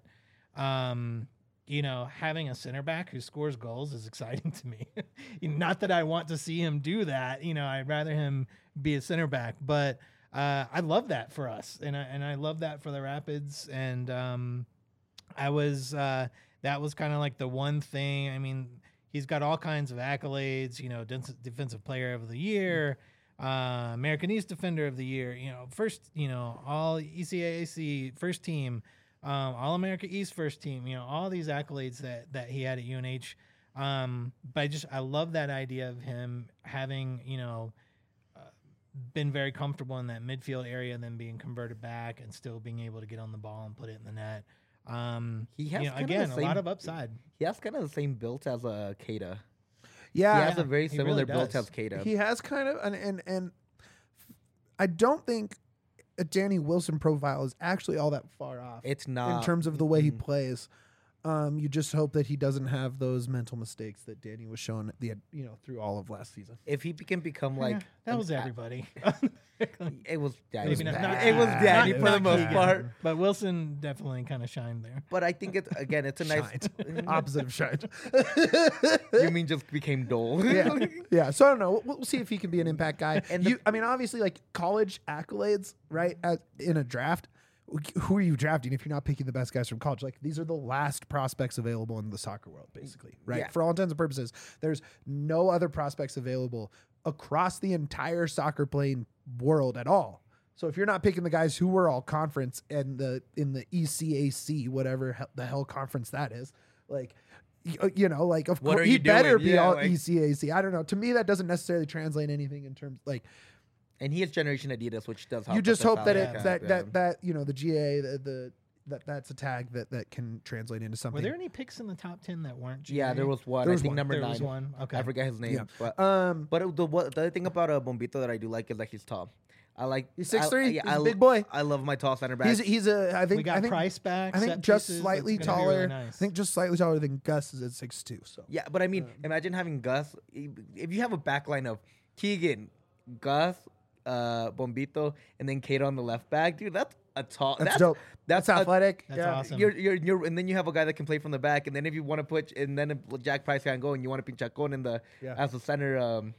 um, you know, having a center back who scores goals is exciting to me. Not that I want to see him do that, you know, I'd rather him be a center back, but uh, I love that for us, and I, and I love that for the Rapids, and um, I was uh, that was kind of like the one thing. I mean, he's got all kinds of accolades, you know, def- defensive player of the year, uh, American East Defender of the Year, you know, first, you know, all E C A A C first team, um, All America East first team, you know, all these accolades that that he had at U N H. Um, but I just I love that idea of him having, you know, uh, been very comfortable in that midfield area and then being converted back and still being able to get on the ball and put it in the net. Um, He has you know, kinda the again, a same- lot of upside. He has kind of the same build as a Keita. Yeah, he has a very he similar really build does. as Keita. he has kind of and and and I don't think a Danny Wilson profile is actually all that far off It's not in terms of the way he mm, plays. Um, you just hope that he doesn't have those mental mistakes that Danny was showing at the you know through all of last season. If he can become like Yeah, that an was a- everybody. It was Danny. Maybe not- not- it was Danny not- for the not most Keegan, part. but Wilson definitely kind of shined there. But I think it's again, it's a nice. Shined. Opposite of shined. You mean just became dull? yeah, yeah. So I don't know. We'll, we'll see if he can be an impact guy. And the- you, I mean, obviously, like college accolades, right? As, in a draft, who are you drafting if you're not picking the best guys from college? Like these are the last prospects available in the soccer world, basically, right? Yeah. For all intents and purposes, there's no other prospects available across the entire soccer playing world at all. So if you're not picking the guys who were all conference and the in the E C A C, whatever he- the hell conference that is, like. y- You know, like of What course are he you better doing? be Yeah, all like- E C A C. I don't know. To me, that doesn't necessarily translate anything in terms like And he has Generation Adidas, which does help. you with just the hope that salary it cap, that yeah. that that you know the G A the, the that that's a tag that that can translate into Were something. there any picks in the top ten that weren't? G A? Yeah, there was one. There I was think one. number There nine. was one. Okay. I forget his name. Yeah. But um, but it- the what the other thing about a Bombito that I do like is that he's tall. I like he's I- six three. yeah, he's I a lo- big boy. I love my tall center back. He's he's a I think we got I think price back. I think set just pieces. slightly That's gonna be really taller. nice. I think just slightly taller than Gus is at six two. So Yeah, but I mean, imagine having Gus. If you have a back line of Keegan, Gus, uh, Bombito, and then Kate on the left back, dude, that's a tall. that's, That's, dope. That's, That's a- athletic. That's yeah. awesome. You're, you're, you're, and then you have a guy that can play from the back, and then if you want to put, and then if Jack Price can't go, and you want to put Chacon in the Yeah. as the center, um,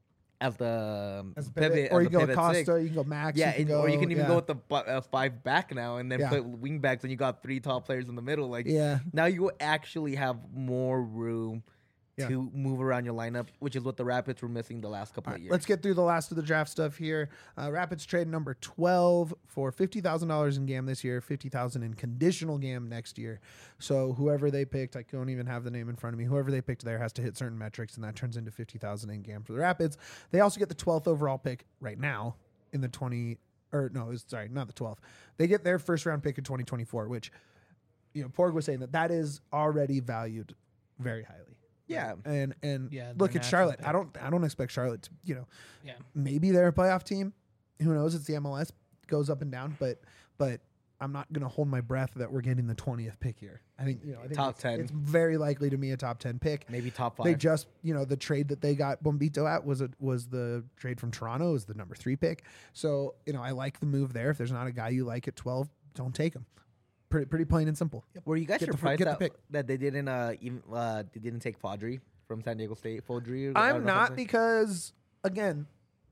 as the um, As a pivot, pivot, or as you a go pivot Costa, six. you can go Max. Yeah, you can and- go, or you can even yeah. go with the bu- uh, five back now, and then Yeah. put wing backs, and you got three tall players in the middle. Like Yeah. now, you actually have more room Yeah. to move around your lineup, which is what the Rapids were missing the last couple All of right, years. let's get through the last of the draft stuff here. Uh, Rapids trade number twelve for fifty thousand dollars in GAM this year, fifty thousand dollars in conditional GAM next year. So whoever they picked, I don't even have the name in front of me. Whoever they picked there has to hit certain metrics, and that turns into fifty thousand dollars in GAM for the Rapids. They also get the twelfth overall pick right now in the twenty or no, it's sorry, not the twelfth. They get their first round pick in twenty twenty-four, which you know Porg was saying that that is already valued very highly. yeah, And and Yeah, look their at natural Charlotte. pick. I don't I don't expect Charlotte to, you know, Yeah. maybe they're a playoff team. Who knows? It's the M L S, goes up and down, but but I'm not going to hold my breath that we're getting the twentieth pick here. I think, you know, I think Top it's, ten. It's very likely to be a top ten pick. Maybe top five. They just, you know, the trade that they got Bombito at was a, was the trade from Toronto, is the number three pick. So, you know, I like the move there. If there's not a guy you like at twelve, don't take him. Pretty, pretty plain and simple. Were you guys Get the fir- surprised get the that, pick. that they didn't uh even uh they didn't take Fodry from San Diego State? Fodry. Or, I I'm don't know not something? because, again,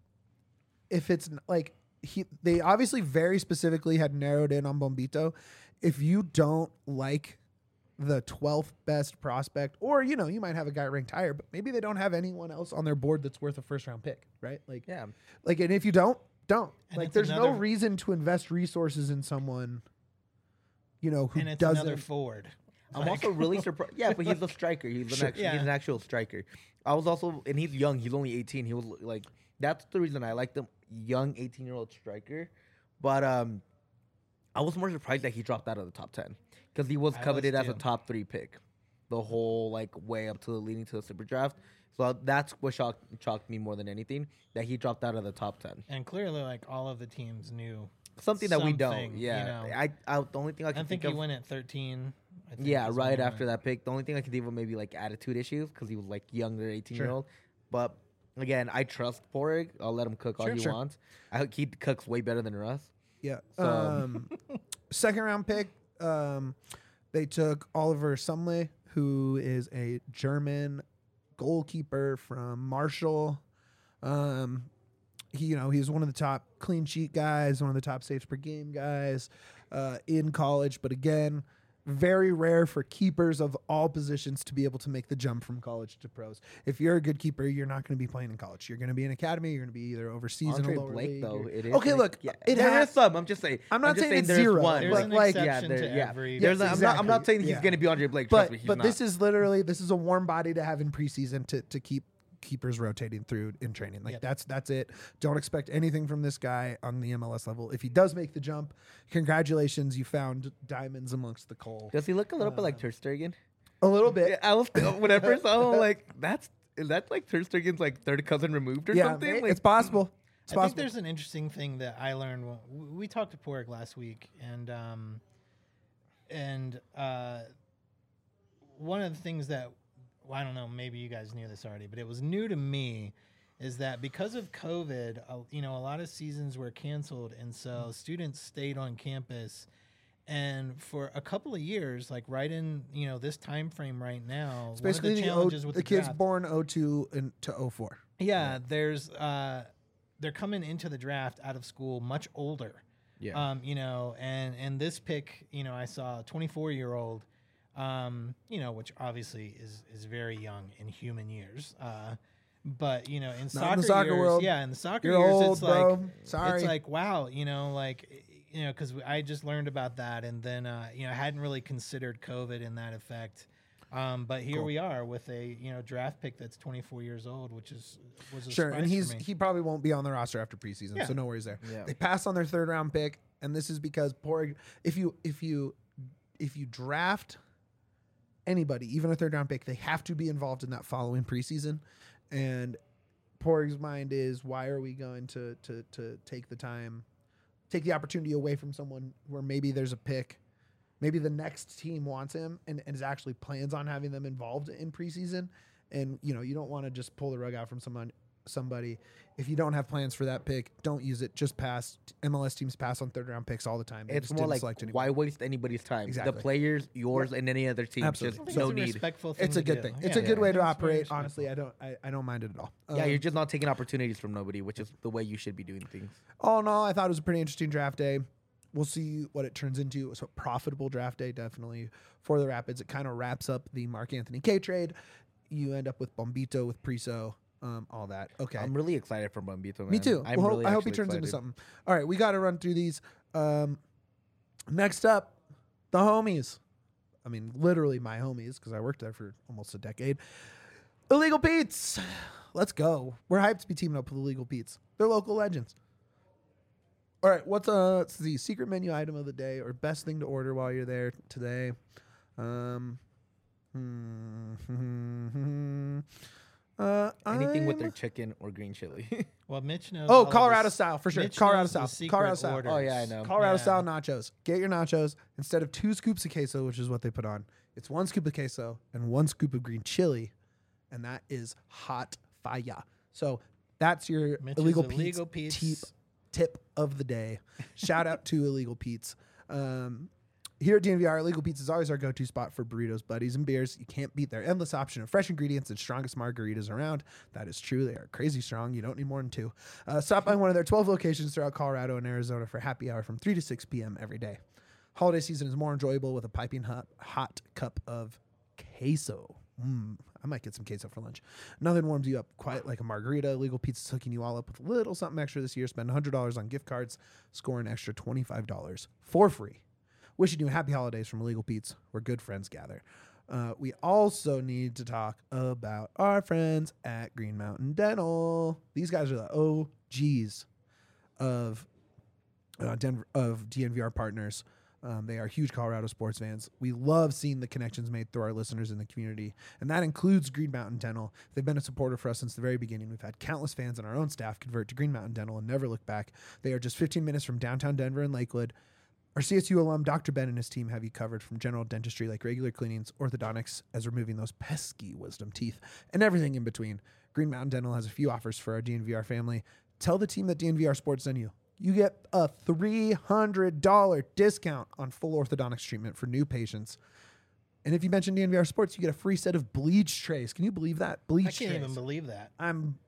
if it's n- like he, they obviously very specifically had narrowed in on Bombito. If you don't like the twelfth best prospect, or you know, you might have a guy ranked higher, but maybe they don't have anyone else on their board that's worth a first round pick, right? Like, Yeah. like, and if you don't, don't. And like, it's there's no another- reason to invest resources in someone, you know, who and it's doesn't. another forward. I'm Like- also really surprised. Yeah, but he's a striker. He's an, Sure. actual, Yeah. he's an actual striker. I was also, and he's young. He's only eighteen. He was like, that's the reason I like the young eighteen year old striker. But um, I was more surprised that he dropped out of the top ten because he was I was coveted as a too. top three pick, the whole like way up to the leading to the super draft. So that's what shocked shocked me more than anything, that he dropped out of the top ten. And clearly, like all of the teams knew. Something that we don't. Something, Yeah, you know. I, I the only thing I I can think think he of. went at thirteen. I think Yeah, is when right he after went. that pick. The only thing I can think of maybe like attitude issues because he was like younger, eighteen year Sure. old. But again, I trust Porig. I'll let him cook all Sure, he sure. wants. I hope he cooks way better than Russ. Yeah. So- Um, second round pick, um, they took Oliver Sumley, who is a German goalkeeper from Marshall. Um, he, you know, he's one of the top clean sheet guys, one of the top saves per game guys uh, in college. But again, very rare for keepers of all positions to be able to make the jump from college to pros. If you're a good keeper, you're not going to be playing in college. You're going to be in academy. You're going to be either overseas Andre in a lower Blake, league. though, or- it is. Okay, like- look, yeah, it there has- is some. I'm just saying. I'm not just saying it's there's zero, One. There's but an like, exception there- to yeah. every. There's Yes, a- I'm not. I'm not exactly. saying he's Yeah. going to be Andre Blake. Trust But me, he's but not. this is literally this is a warm body to have in preseason to to keep keepers rotating through in training. Like Yep. that's that's it. Don't expect anything from this guy on the M L S level. If he does make the jump, congratulations, you found diamonds amongst the coal. Does he look a little bit Uh, like Ter Stegen? A little bit. Yeah, I was when I first saw him, like that's is that like Ter Stegen's like third cousin removed or Yeah, something? ma- Like, it's possible. It's I think possible. there's an interesting thing that I learned. When, w- we talked to Porig last week, and um, and uh, one of the things that well, I don't know, maybe you guys knew this already, but it was new to me, is that because of COVID, uh, you know, a lot of seasons were canceled, and so students stayed on campus. And for a couple of years, like right in you know this time frame right now, It's one of basically the the, o, challenges with the the, kids draft, born oh two and to oh four. yeah, there's uh, they're coming into the draft out of school much older. yeah. Um, you know, and and this pick, you know, I saw a twenty-four year old, um, you know, which obviously is is very young in human years. Uh, but you know, in Not soccer, in the soccer years, world. yeah, in the soccer You're years, old, it's bro. like Sorry. it's like wow, you know, like you know, because I just learned about that, and then uh, you know, I hadn't really considered COVID in that effect. Um, but here Cool. we are with a you know draft pick that's twenty-four years old, which is was a Sure, surprise and he's for me. he probably won't be on the roster after preseason, Yeah. so no worries there. Yeah. They passed on their third round pick, and this is because Porig. If you if you if you draft anybody, even a third round pick, they have to be involved in that following preseason. And Porig's mind is, why are we going to to to take the time, take the opportunity away from someone where maybe there's a pick, maybe the next team wants him and, and is actually plans on having them involved in preseason. And you know, you don't want to just pull the rug out from someone somebody. If you don't have plans for that pick, don't use it. Just pass. M L S teams pass on third round picks all the time. They It's just more didn't like select anyone. why waste anybody's time? Exactly. The players, yours, and any other team. Absolutely. I Just think no it's a need. respectful thing It's a to good do. thing. Yeah, It's a good yeah. way to I think it's very operate. respectful. Honestly, I don't I, I don't mind it at all. Yeah, Um, you're just not taking opportunities from nobody, which is the way you should be doing things. all in all, I thought it was a pretty interesting draft day. We'll see what it turns into. So profitable draft day, definitely for the Rapids. It kind of wraps up the Mark Anthony K trade. You end up with Bombito, with Priso, um, all that. Okay. I'm really excited for Bombito, man. Me too. I'm Well, really I hope he actually turns into excited. something. All right, we got to run through these. Um, next up, the homies. I mean, literally my homies, because I worked there for almost a decade. Illegal Pete's. Let's go. We're hyped to be teaming up with Illegal Pete's. They're local legends. All right, what's uh it's the secret menu item of the day or best thing to order while you're there today? Um, hmm, Uh, Anything with I'm- their chicken or green chili. Well, Mitch knows. Oh, all of Colorado this- style for sure. Mitch Colorado knows the style. secret Colorado style. orders. Oh, yeah, I know. Colorado Yeah. style nachos. Get your nachos instead of two scoops of queso, which is what they put on. It's one scoop of queso and one scoop of green chili, and that is hot fire. So that's your Mitch's illegal, Illegal Pete's, Pete's. tip, tip of the day. Shout out to Illegal Pete's. Um, here at D N V R, Illegal Pete's is always our go-to spot for burritos, buddies, and beers. You can't beat their endless option of fresh ingredients and strongest margaritas around. That is true. They are crazy strong. You don't need more than two. Uh, stop by one of their twelve locations throughout Colorado and Arizona for happy hour from three to six p.m. every day. Holiday season is more enjoyable with a piping hot, hot cup of queso. Mm, I might get some queso for lunch. Nothing warms you up quite like a margarita. Illegal Pizza's hooking you all up with a little something extra this year. Spend one hundred dollars on gift cards. Score an extra twenty-five dollars for free. Wishing you happy holidays from Illegal Pete's, where good friends gather. Uh, we also need to talk about our friends at Green Mountain Dental. These guys are the O Gs of uh, Denver, of D N V R partners. Um, they are huge Colorado sports fans. We love seeing the connections made through our listeners in the community, and that includes Green Mountain Dental. They've been a supporter for us since the very beginning. We've had countless fans and our own staff convert to Green Mountain Dental and never look back. They are just fifteen minutes from downtown Denver and Lakewood. Our C S U alum, Doctor Ben, and his team have you covered from general dentistry like regular cleanings, orthodontics, as removing those pesky wisdom teeth, and everything in between. Green Mountain Dental has a few offers for our D N V R family. Tell the team that D N V R Sports sent you. You get a three hundred dollars discount on full orthodontics treatment for new patients. And if you mention D N V R Sports, you get a free set of bleach trays. Can you believe that? Bleach I can't trays. even believe that. I'm...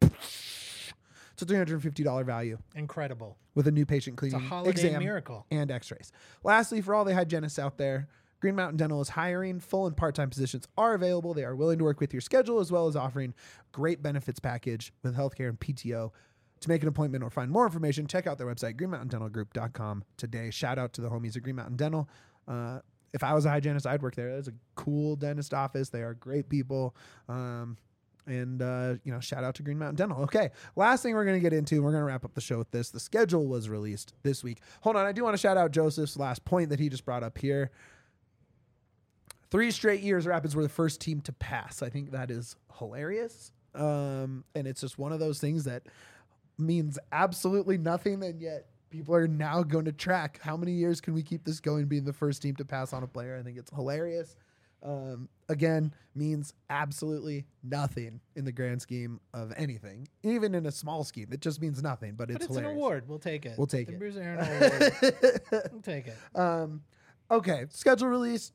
It's a three hundred fifty dollars value Incredible. with a new patient It's a cleaning holiday exam miracle. and x-rays. Lastly, for all the hygienists out there, Green Mountain Dental is hiring. Full and part-time positions are available. They are willing to work with your schedule as well as offering great benefits package with healthcare and P T O. To make an appointment or find more information, check out their website, green mountain dental group dot com today. Shout out to the homies at Green Mountain Dental. Uh, if I was a hygienist, I'd work there. That's a cool dentist office. They are great people. Um, And, uh, you know, shout out to Green Mountain Dental. Okay, last thing we're going to get into, we're going to wrap up the show with this. The schedule was released this week. Hold on, I do want to shout out Joseph's last point that he just brought up here. Three straight years, Rapids were the first team to pass. I think that is hilarious. Um, and it's just one of those things that means absolutely nothing, and yet people are now going to track how many years can we keep this going, being the first team to pass on a player. I think it's hilarious. Um, again, means absolutely nothing in the grand scheme of anything, even in a small scheme. It just means nothing, but, But it's it's hilarious. an award. We'll take it. We'll take the it. Bruce Aaron Award. We'll take it. Um, okay, schedule release.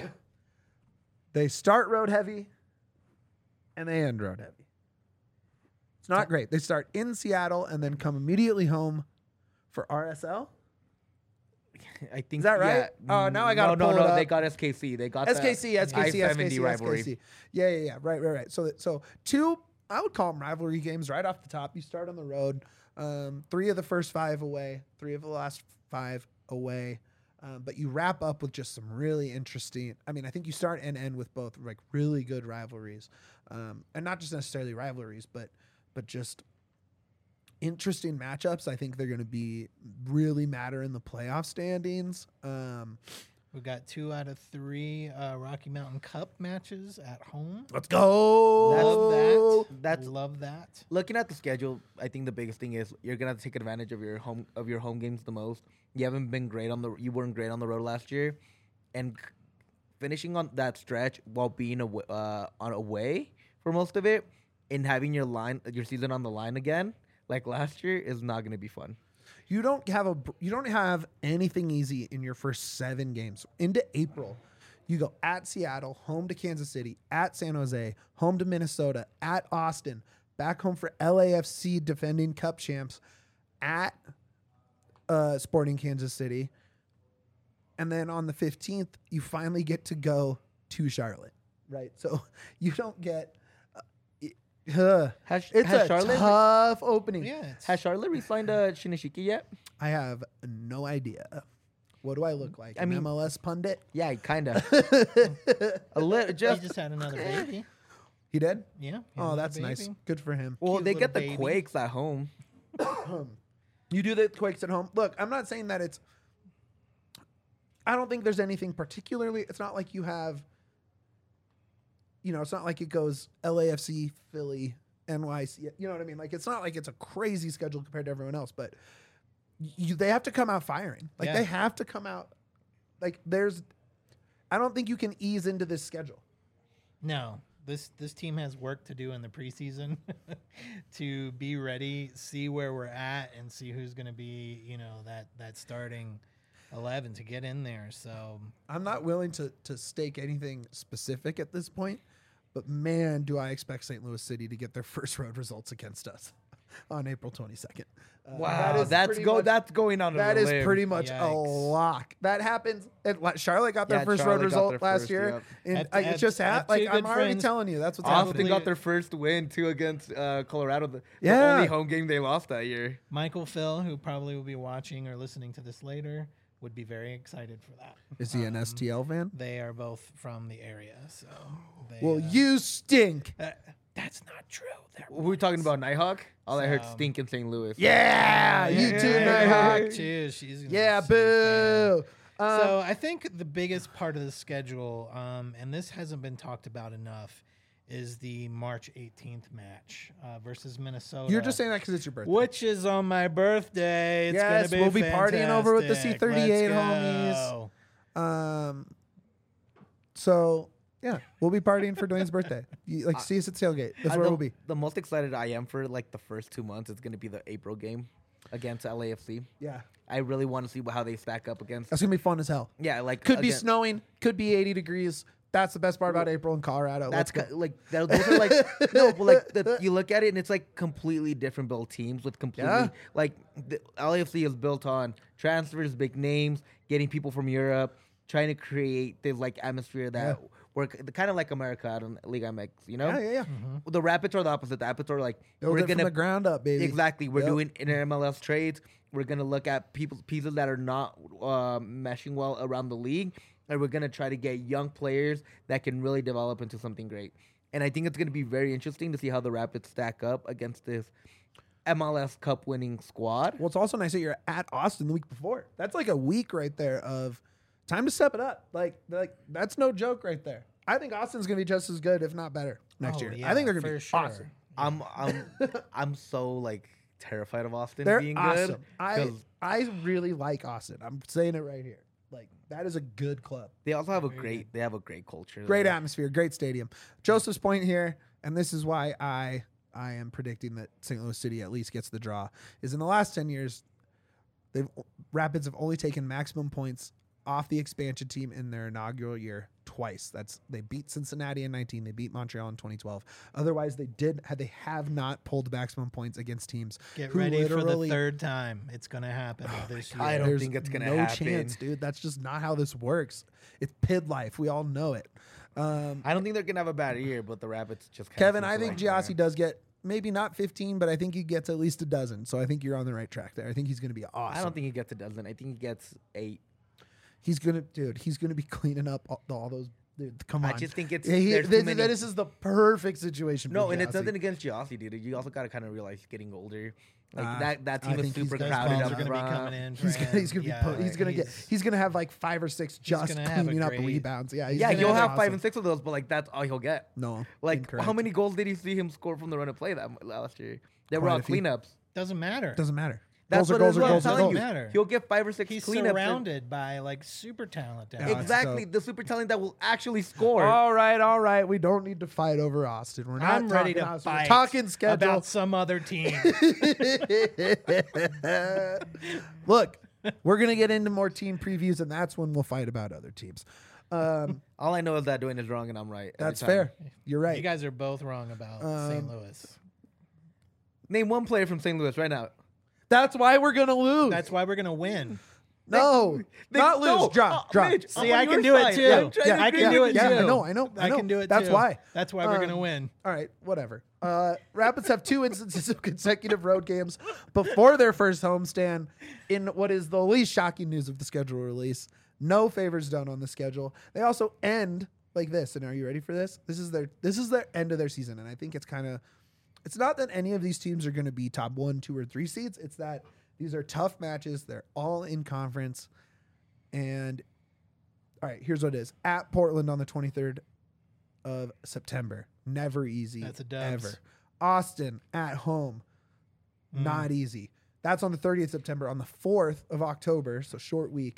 They start road heavy, and they end road heavy. It's not great. They start in Seattle and then come immediately home for R S L. I think Is that right? Yeah. Oh, now I gotta no, pull no, it no. up. They got S K C. They got S K C, the S K C, I S K seventy C, rivalry. S K C. Yeah, yeah, yeah. Right, right, right. So, so two, I would call them rivalry games right off the top. You start on the road. Um, three of the first five away, three of the last five away. Um, but you wrap up with just some really interesting. I mean, I think you start and end with both like really good rivalries, um, and not just necessarily rivalries, but but just interesting matchups. I think they're going to be really matter in the playoff standings. Um, We've got two out of three uh, Rocky Mountain Cup matches at home. let's go. Love that. That's- Love that. Looking at the schedule, I think the biggest thing is you're gonna have to take advantage of your home of your home games the most. You haven't been great on the you weren't great on the road last year, and c- finishing on that stretch while being aw- uh, on away for most of it, and having your line your season on the line again like last year is not gonna be fun. You don't have a you don't have anything easy in your first seven games. Into April, you go at Seattle, home to Kansas City, at San Jose, home to Minnesota, at Austin, back home for L A F C defending Cup champs, at uh, Sporting Kansas City, and then on the fifteenth, you finally get to go to Charlotte. Right, so you don't get. Uh, Has, it's has a Charlotte tough opening. Yeah. It's, has Charlotte re-signed uh, Shinishiki yet? I have no idea. What do I look like? I An mean- M L S pundit? Yeah, kind of. a little, he just just had another baby. He did? Yeah. he had Oh, another that's nice. baby. Good for him. well, cute they little get the baby. Quakes at home. You do the Quakes at home. Look, I'm not saying that it's. I don't think there's anything particularly. It's not like you have you know, it's not like it goes L A F C, Philly, N Y C. You know what I mean? Like, it's not like it's a crazy schedule compared to everyone else, but you, they have to come out firing. Like, Yeah. they have to come out. Like, there's, I don't think you can ease into this schedule. No, this this team has work to do in the preseason to be ready, see where we're at, and see who's going to be, you know, that that starting eleven to get in there. So I'm not willing to to stake anything specific at this point, but man, do I expect Saint Louis City to get their first road results against us on April twenty-second. Uh, Wow, is that's pretty go. much- That's going on. That a is limb. pretty much a Yikes. lock. That happens. And like, Charlotte got their Yeah, first Charlotte road got result their last first, year. yep. And At- I, at- it just at happened. two Like I'm good already friends. telling you, that's what's Austin happening. got their first win too against uh, Colorado. The, the Yeah. only home game they lost that year. Michael Phil, who probably will be watching or listening to this later, would be very excited for that. Is he an Um, S T L fan? They are both from the area, so. They, Well, uh, you stink. uh, that's not true. They're We were talking once. about Nighthawk. All I heard So- stink in Saint Louis. Yeah, you yeah, too, yeah, Nighthawk. yeah. Too. She's gonna be Yeah, a City fan. boo. Um, So I think the biggest part of the schedule, um, and this hasn't been talked about enough, is the March eighteenth match uh, versus Minnesota. you're just saying that because it's your birthday. which is on my birthday. It's Yes, gonna be we'll be partying over with the fantastic. C thirty-eight Let's homies. go. Um. So yeah, we'll be partying for Dwayne's birthday. You, like, see us at tailgate. That's Uh, where the, we'll be. The most excited I am for like the first two months is going to be the April game against L A F C. Yeah, I really want to see how they stack up against. that's gonna be fun as hell. Yeah, like Could be again- snowing. Could be eighty degrees. That's the best part about April in Colorado. That's Let's ca- go. like that, those are like no, but like the, you look at it and it's like completely different built teams with completely Yeah. like the L A F C is built on transfers, big names, getting people from Europe, trying to create this like atmosphere that Yeah. work kind of like America out in Liga M X, you know? Yeah, yeah, yeah. The Rapids are the opposite. The Rapids are like Build we're it from gonna the ground up, baby. exactly. We're Yep. doing inter M L S trades. We're gonna look at people pieces that are not uh, meshing well around the league, and we're gonna try to get young players that can really develop into something great. And I think it's gonna be very interesting to see how the Rapids stack up against this M L S Cup winning squad. Well, it's also nice that you're at Austin the week before. That's like a week right there of time to step it up. Like, like that's no joke right there. I think Austin's gonna be just as good, if not better, next Oh, year. yeah, I think they're gonna for be sure. awesome. I'm I'm I'm so like terrified of Austin They're being awesome. good. I 'cause I really like Austin. I'm saying it right here. Like, that is a good club. they also have a Very great they have a great culture. Great there. atmosphere, great stadium. Joseph's point here, and this is why I I am predicting that Saint Louis City at least gets the draw, is in the last ten years, they've Rapids have only taken maximum points off the expansion team in their inaugural year twice. That's they beat Cincinnati in nineteen, they beat Montreal in twenty twelve. Otherwise, they did had they have not pulled maximum points against teams. Get who ready for the literally- third time. It's gonna happen this year. I don't There's think it's gonna no happen. chance, dude. That's just not how this works. It's pid life. We all know it. Um, I don't think they're gonna have a bad year, but the Rapids just kinda Kevin, seem I to think like Giassi that. does get maybe not fifteen, but I think he gets at least a dozen. So I think you're on the right track there. I think he's going to be awesome. I don't think he gets a dozen. I think he gets eight. he's going to, dude. He's going to be cleaning up all, all those. Dude, come I on. just think it's Yeah, he- there's too this, many- this is the perfect situation. No, for and it's Giassi. nothing against Giassi, dude. You also gotta kind of realize he's getting older. Like Uh, that that I team is think he's super gonna- Those crowded balls up are gonna be front. coming in. For He's gonna, him. he's gonna Yeah, be po- he's gonna get he's- he's gonna have like five or six just gonna have a cleaning up great- rebounds. Yeah, he's Yeah, gonna he'll be have five awesome. and six of those, but like that's all he'll get. No, Like incorrect. how many goals did you see him score from the run and play that m- last year? They were Quite all a few. cleanups. Doesn't matter. Doesn't matter. That's goals are what goals it are is, goals I'm are telling goals. you. Matter. He'll get five or six He's cleanups. and- surrounded by like super talent. down Yeah, there. it's Exactly, dope. the super talent that will actually score. All right, all right. We don't need to fight over Austin. We're not I'm ready talking to Austin. We're fight talking schedule. about some other team. Look, we're gonna get into more team previews, and that's when we'll fight about other teams. Um, All I know is that Dwayne is wrong and I'm right. every that's time. fair. You're right. You guys are both wrong about Um, Saint Louis. Name one player from Saint Louis right now. that's why we're gonna lose. That's why we're gonna win. no, They- not lose. no, Draw, uh, draw. Mitch, See, I'm on I can your do it side. too. I'm trying Yeah, to I agree can do with it you. yeah, too. I know, I know, I I know. can do it That's too. why. That's why we're Um, gonna win. All right, whatever. Uh, Rapids have two instances of consecutive road games before their first homestand in what is the least shocking news of the schedule release. No favors done on the schedule. They also end like this. And are you ready for this? This is their this is their end of their season. And I think it's kind of it's not that any of these teams are going to be top one, two, or three seeds. It's that these are tough matches. They're all in conference. And all right, here's what it is. At Portland on the twenty-third, of September. Never easy. That's a dubs. ever. Austin at home. Mm. Not easy. That's on the thirtieth of September. On the fourth of October, so short week,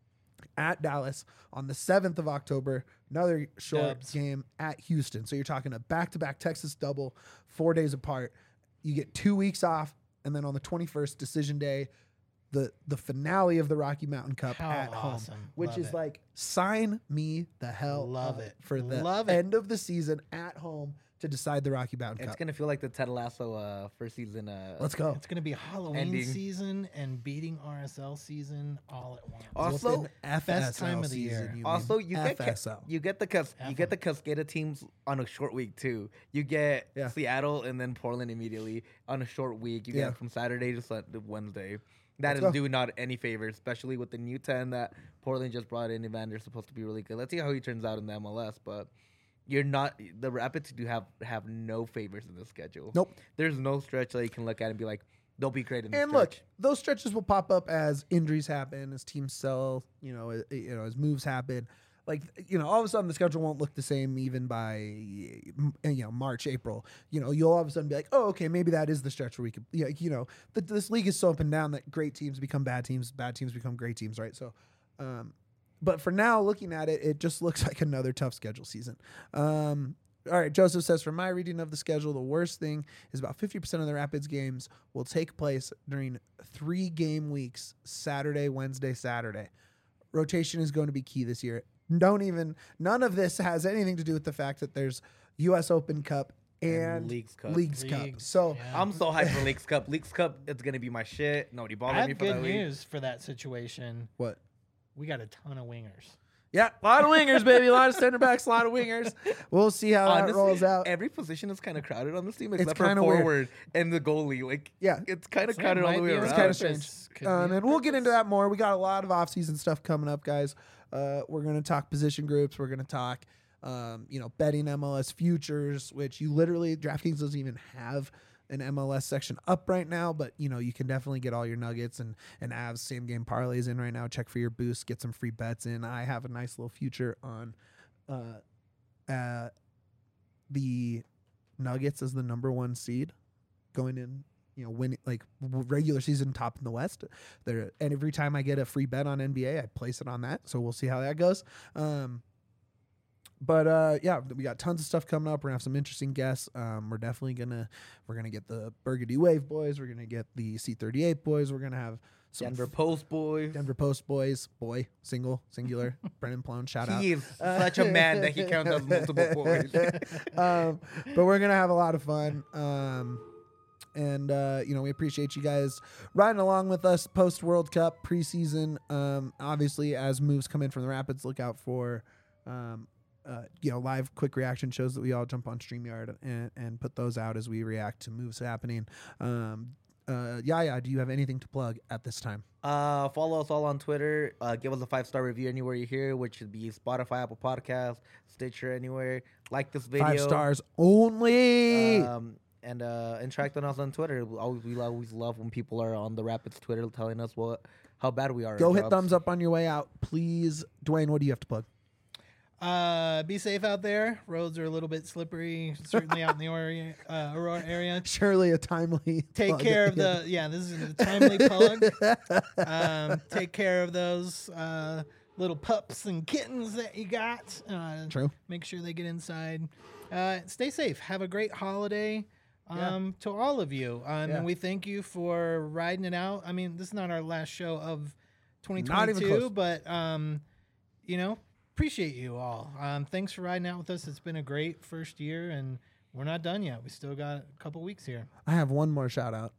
at Dallas. On the seventh of October, another short Dubs. game at Houston. So you're talking a back-to-back Texas double, four days apart. You get two weeks off, and then on the twenty-first, decision day, the the finale of the Rocky Mountain Cup How at home, awesome. which Love is it. like sign me the hell Love up it. for the Love it. end of the season at home to decide the Rocky Mountain It's Cup. gonna feel like the Ted Lasso uh, first season. Uh, Let's go. It's going to be Halloween Ending. season and beating R S L season all at once. Also, Within F S L best time of the season, year. you mean Also, you get F S L. Ca- you get the Cas- F you get the Cascada teams on a short week too. You get Yeah. Seattle and then Portland immediately on a short week. You Yeah. get from Saturday to Sun- to Wednesday. That Let's is go. doing not any favors, especially with the new ten that Portland just brought in. Evander's supposed to be really good. Let's see how he turns out in the M L S, but. You're not the Rapids do have have no favors in the schedule. Nope. There's no stretch that you can look at and be like, they'll be great in this And stretch. look, those stretches will pop up as injuries happen, as teams sell, you know, uh, you know, as moves happen. Like, you know, all of a sudden the schedule won't look the same even by, you know, March, April. You know, you'll all of a sudden be like, oh, okay, maybe that is the stretch where we could, yeah, you know, the, this league is so up and down that great teams become bad teams, bad teams become great teams, right? So, um, but for now, looking at it, it just looks like another tough schedule season. Um, all right, Joseph says, from my reading of the schedule, the worst thing is about fifty percent of the Rapids games will take place during three game weeks, Saturday, Wednesday, Saturday. Rotation is going to be key this year. Don't even, none of this has anything to do with the fact that there's U S Open Cup and, And Leagues Cup. Leagues Cup. Leagues, So yeah. I'm so hyped for Leagues Cup. Leagues Cup, it's gonna be my shit. Nobody I bothered me have for good that week. news for that situation. what? We got a ton of wingers. Yeah, a lot of wingers, baby. A lot of center backs, a lot of wingers. We'll see how that Honestly, rolls out. every position is kind of crowded on this team It's except for kinda weird. forward and the goalie. Like, Yeah. it's kind of So it crowded all might the way be on around. It's kinda purpose. strange. Could be Um, on and we'll get into purpose. that more. We got a lot of off-season stuff coming up, guys. Uh, we're going to talk position groups. We're going to talk, um, you know, betting M L S futures, which you literally, DraftKings doesn't even have an M L S section up right now, but, you know, you can definitely get all your nuggets and, and Avs same game parlays in right now. Check for your boost, get some free bets in. I have a nice little future on uh, uh, the Nuggets as the number one seed going in. You know, win like w- regular season top in the West. There, and every time I get a free bet on N B A, I place it on that. So we'll see how that goes. Um, but uh, yeah, we got tons of stuff coming up. We're gonna have some interesting guests. Um, we're definitely gonna we're gonna get the Burgundy Wave boys. We're gonna get the C thirty-eight boys. We're gonna have some Denver f- Post boys. Denver Post boys. Boy, single, singular. Brennan Plone, shout out. He is such a man that he counts as multiple boys. um, but we're gonna have a lot of fun. Um, and uh, you know, we appreciate you guys riding along with us post World Cup preseason. Um, obviously, as moves come in from the Rapids, look out for um, uh, you know, live quick reaction shows that we all jump on StreamYard and, and put those out as we react to moves happening. Um, uh, Yaya, do you have anything to plug at this time? Uh, follow us all on Twitter. Uh, give us a five star review anywhere you hear, which should be Spotify, Apple Podcasts, Stitcher, anywhere. Like this video. Five stars only. Um, and uh, interact with us on Twitter. We always, we always love when people are on the Rapids Twitter telling us what how bad we are. at Go hit jobs. thumbs up on your way out, please. Dwayne, what do you have to plug? Uh, be safe out there. Roads are a little bit slippery, certainly out in the Aurora, uh, Aurora area. Surely a timely. Take plug. care of the yeah. This is a timely plug. Um, take care of those uh, little pups and kittens that you got. Uh, True. Make sure they get inside. Uh, stay safe. Have a great holiday. Yeah. Um, to all of you, um, Yeah. and we thank you for riding it out. I mean, this is not our last show of twenty Not even twenty-two, close. but um, you know, appreciate you all. Um, thanks for riding out with us. It's been a great first year, and we're not done yet. We still got a couple weeks here. I have one more shout out.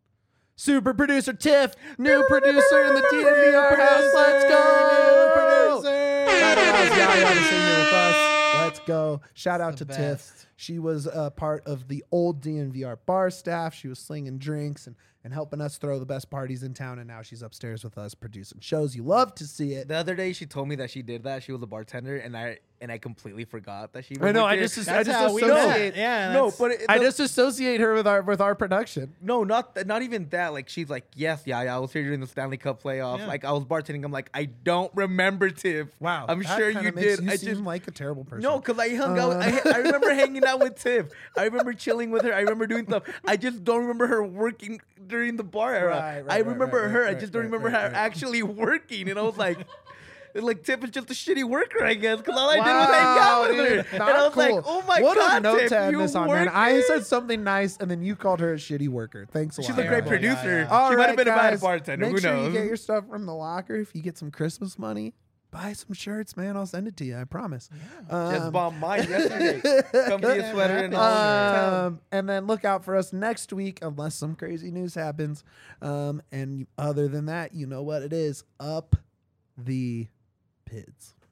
Super producer Tiff, new producer in the T N V R house. Let's go. Producer. That allows Yaya to sing here with us. Let's go. Shout out The to Tiff. best. She was a part of the old D N V R bar staff. She was slinging drinks and, and helping us throw the best parties in town. And now she's upstairs with us producing shows. You love to see it. The other day, she told me that she did that. She was a bartender, and I and I completely forgot that she. I know. worked I there. just, I That's just how we associate. met. Yeah, no, that's- but it, I the- just associate her with our with our production. no, not th- not even that. Like she's like, yes, yeah, yeah, I was here during the Stanley Cup playoffs. Yeah. Like I was bartending. I'm like, I don't remember Tiff. Wow, I'm that sure kinda you makes did. You I seem just like a terrible person. no, because I hung out. Uh. I, I remember hanging out with Tiff. I remember chilling with her. I remember doing stuff. I just don't remember her working during the bar era. Right, right, I right, remember right, her. right, I just right, don't right, remember right, her right. actually working. And I was like. Like Tiff is just a shitty worker, I guess, because all I did was hang out with her, dude, and not I was cool. like, "Oh my what god, a note Tiff, to end you this on, work man. I here?" said something nice, and then you called her a shitty worker. Thanks a She's lot. a great Yeah, producer. yeah, yeah. All She might right, have been a guys, bad bartender. Make Who sure knows? you get your stuff from the locker. If you get some Christmas money, buy some shirts, man. I'll send it to you. I promise. Just Um, bought mine yesterday. Come be a sweater and all. Um, and then look out for us next week, unless some crazy news happens. Um, and other than that, you know what it is. Up the Pids.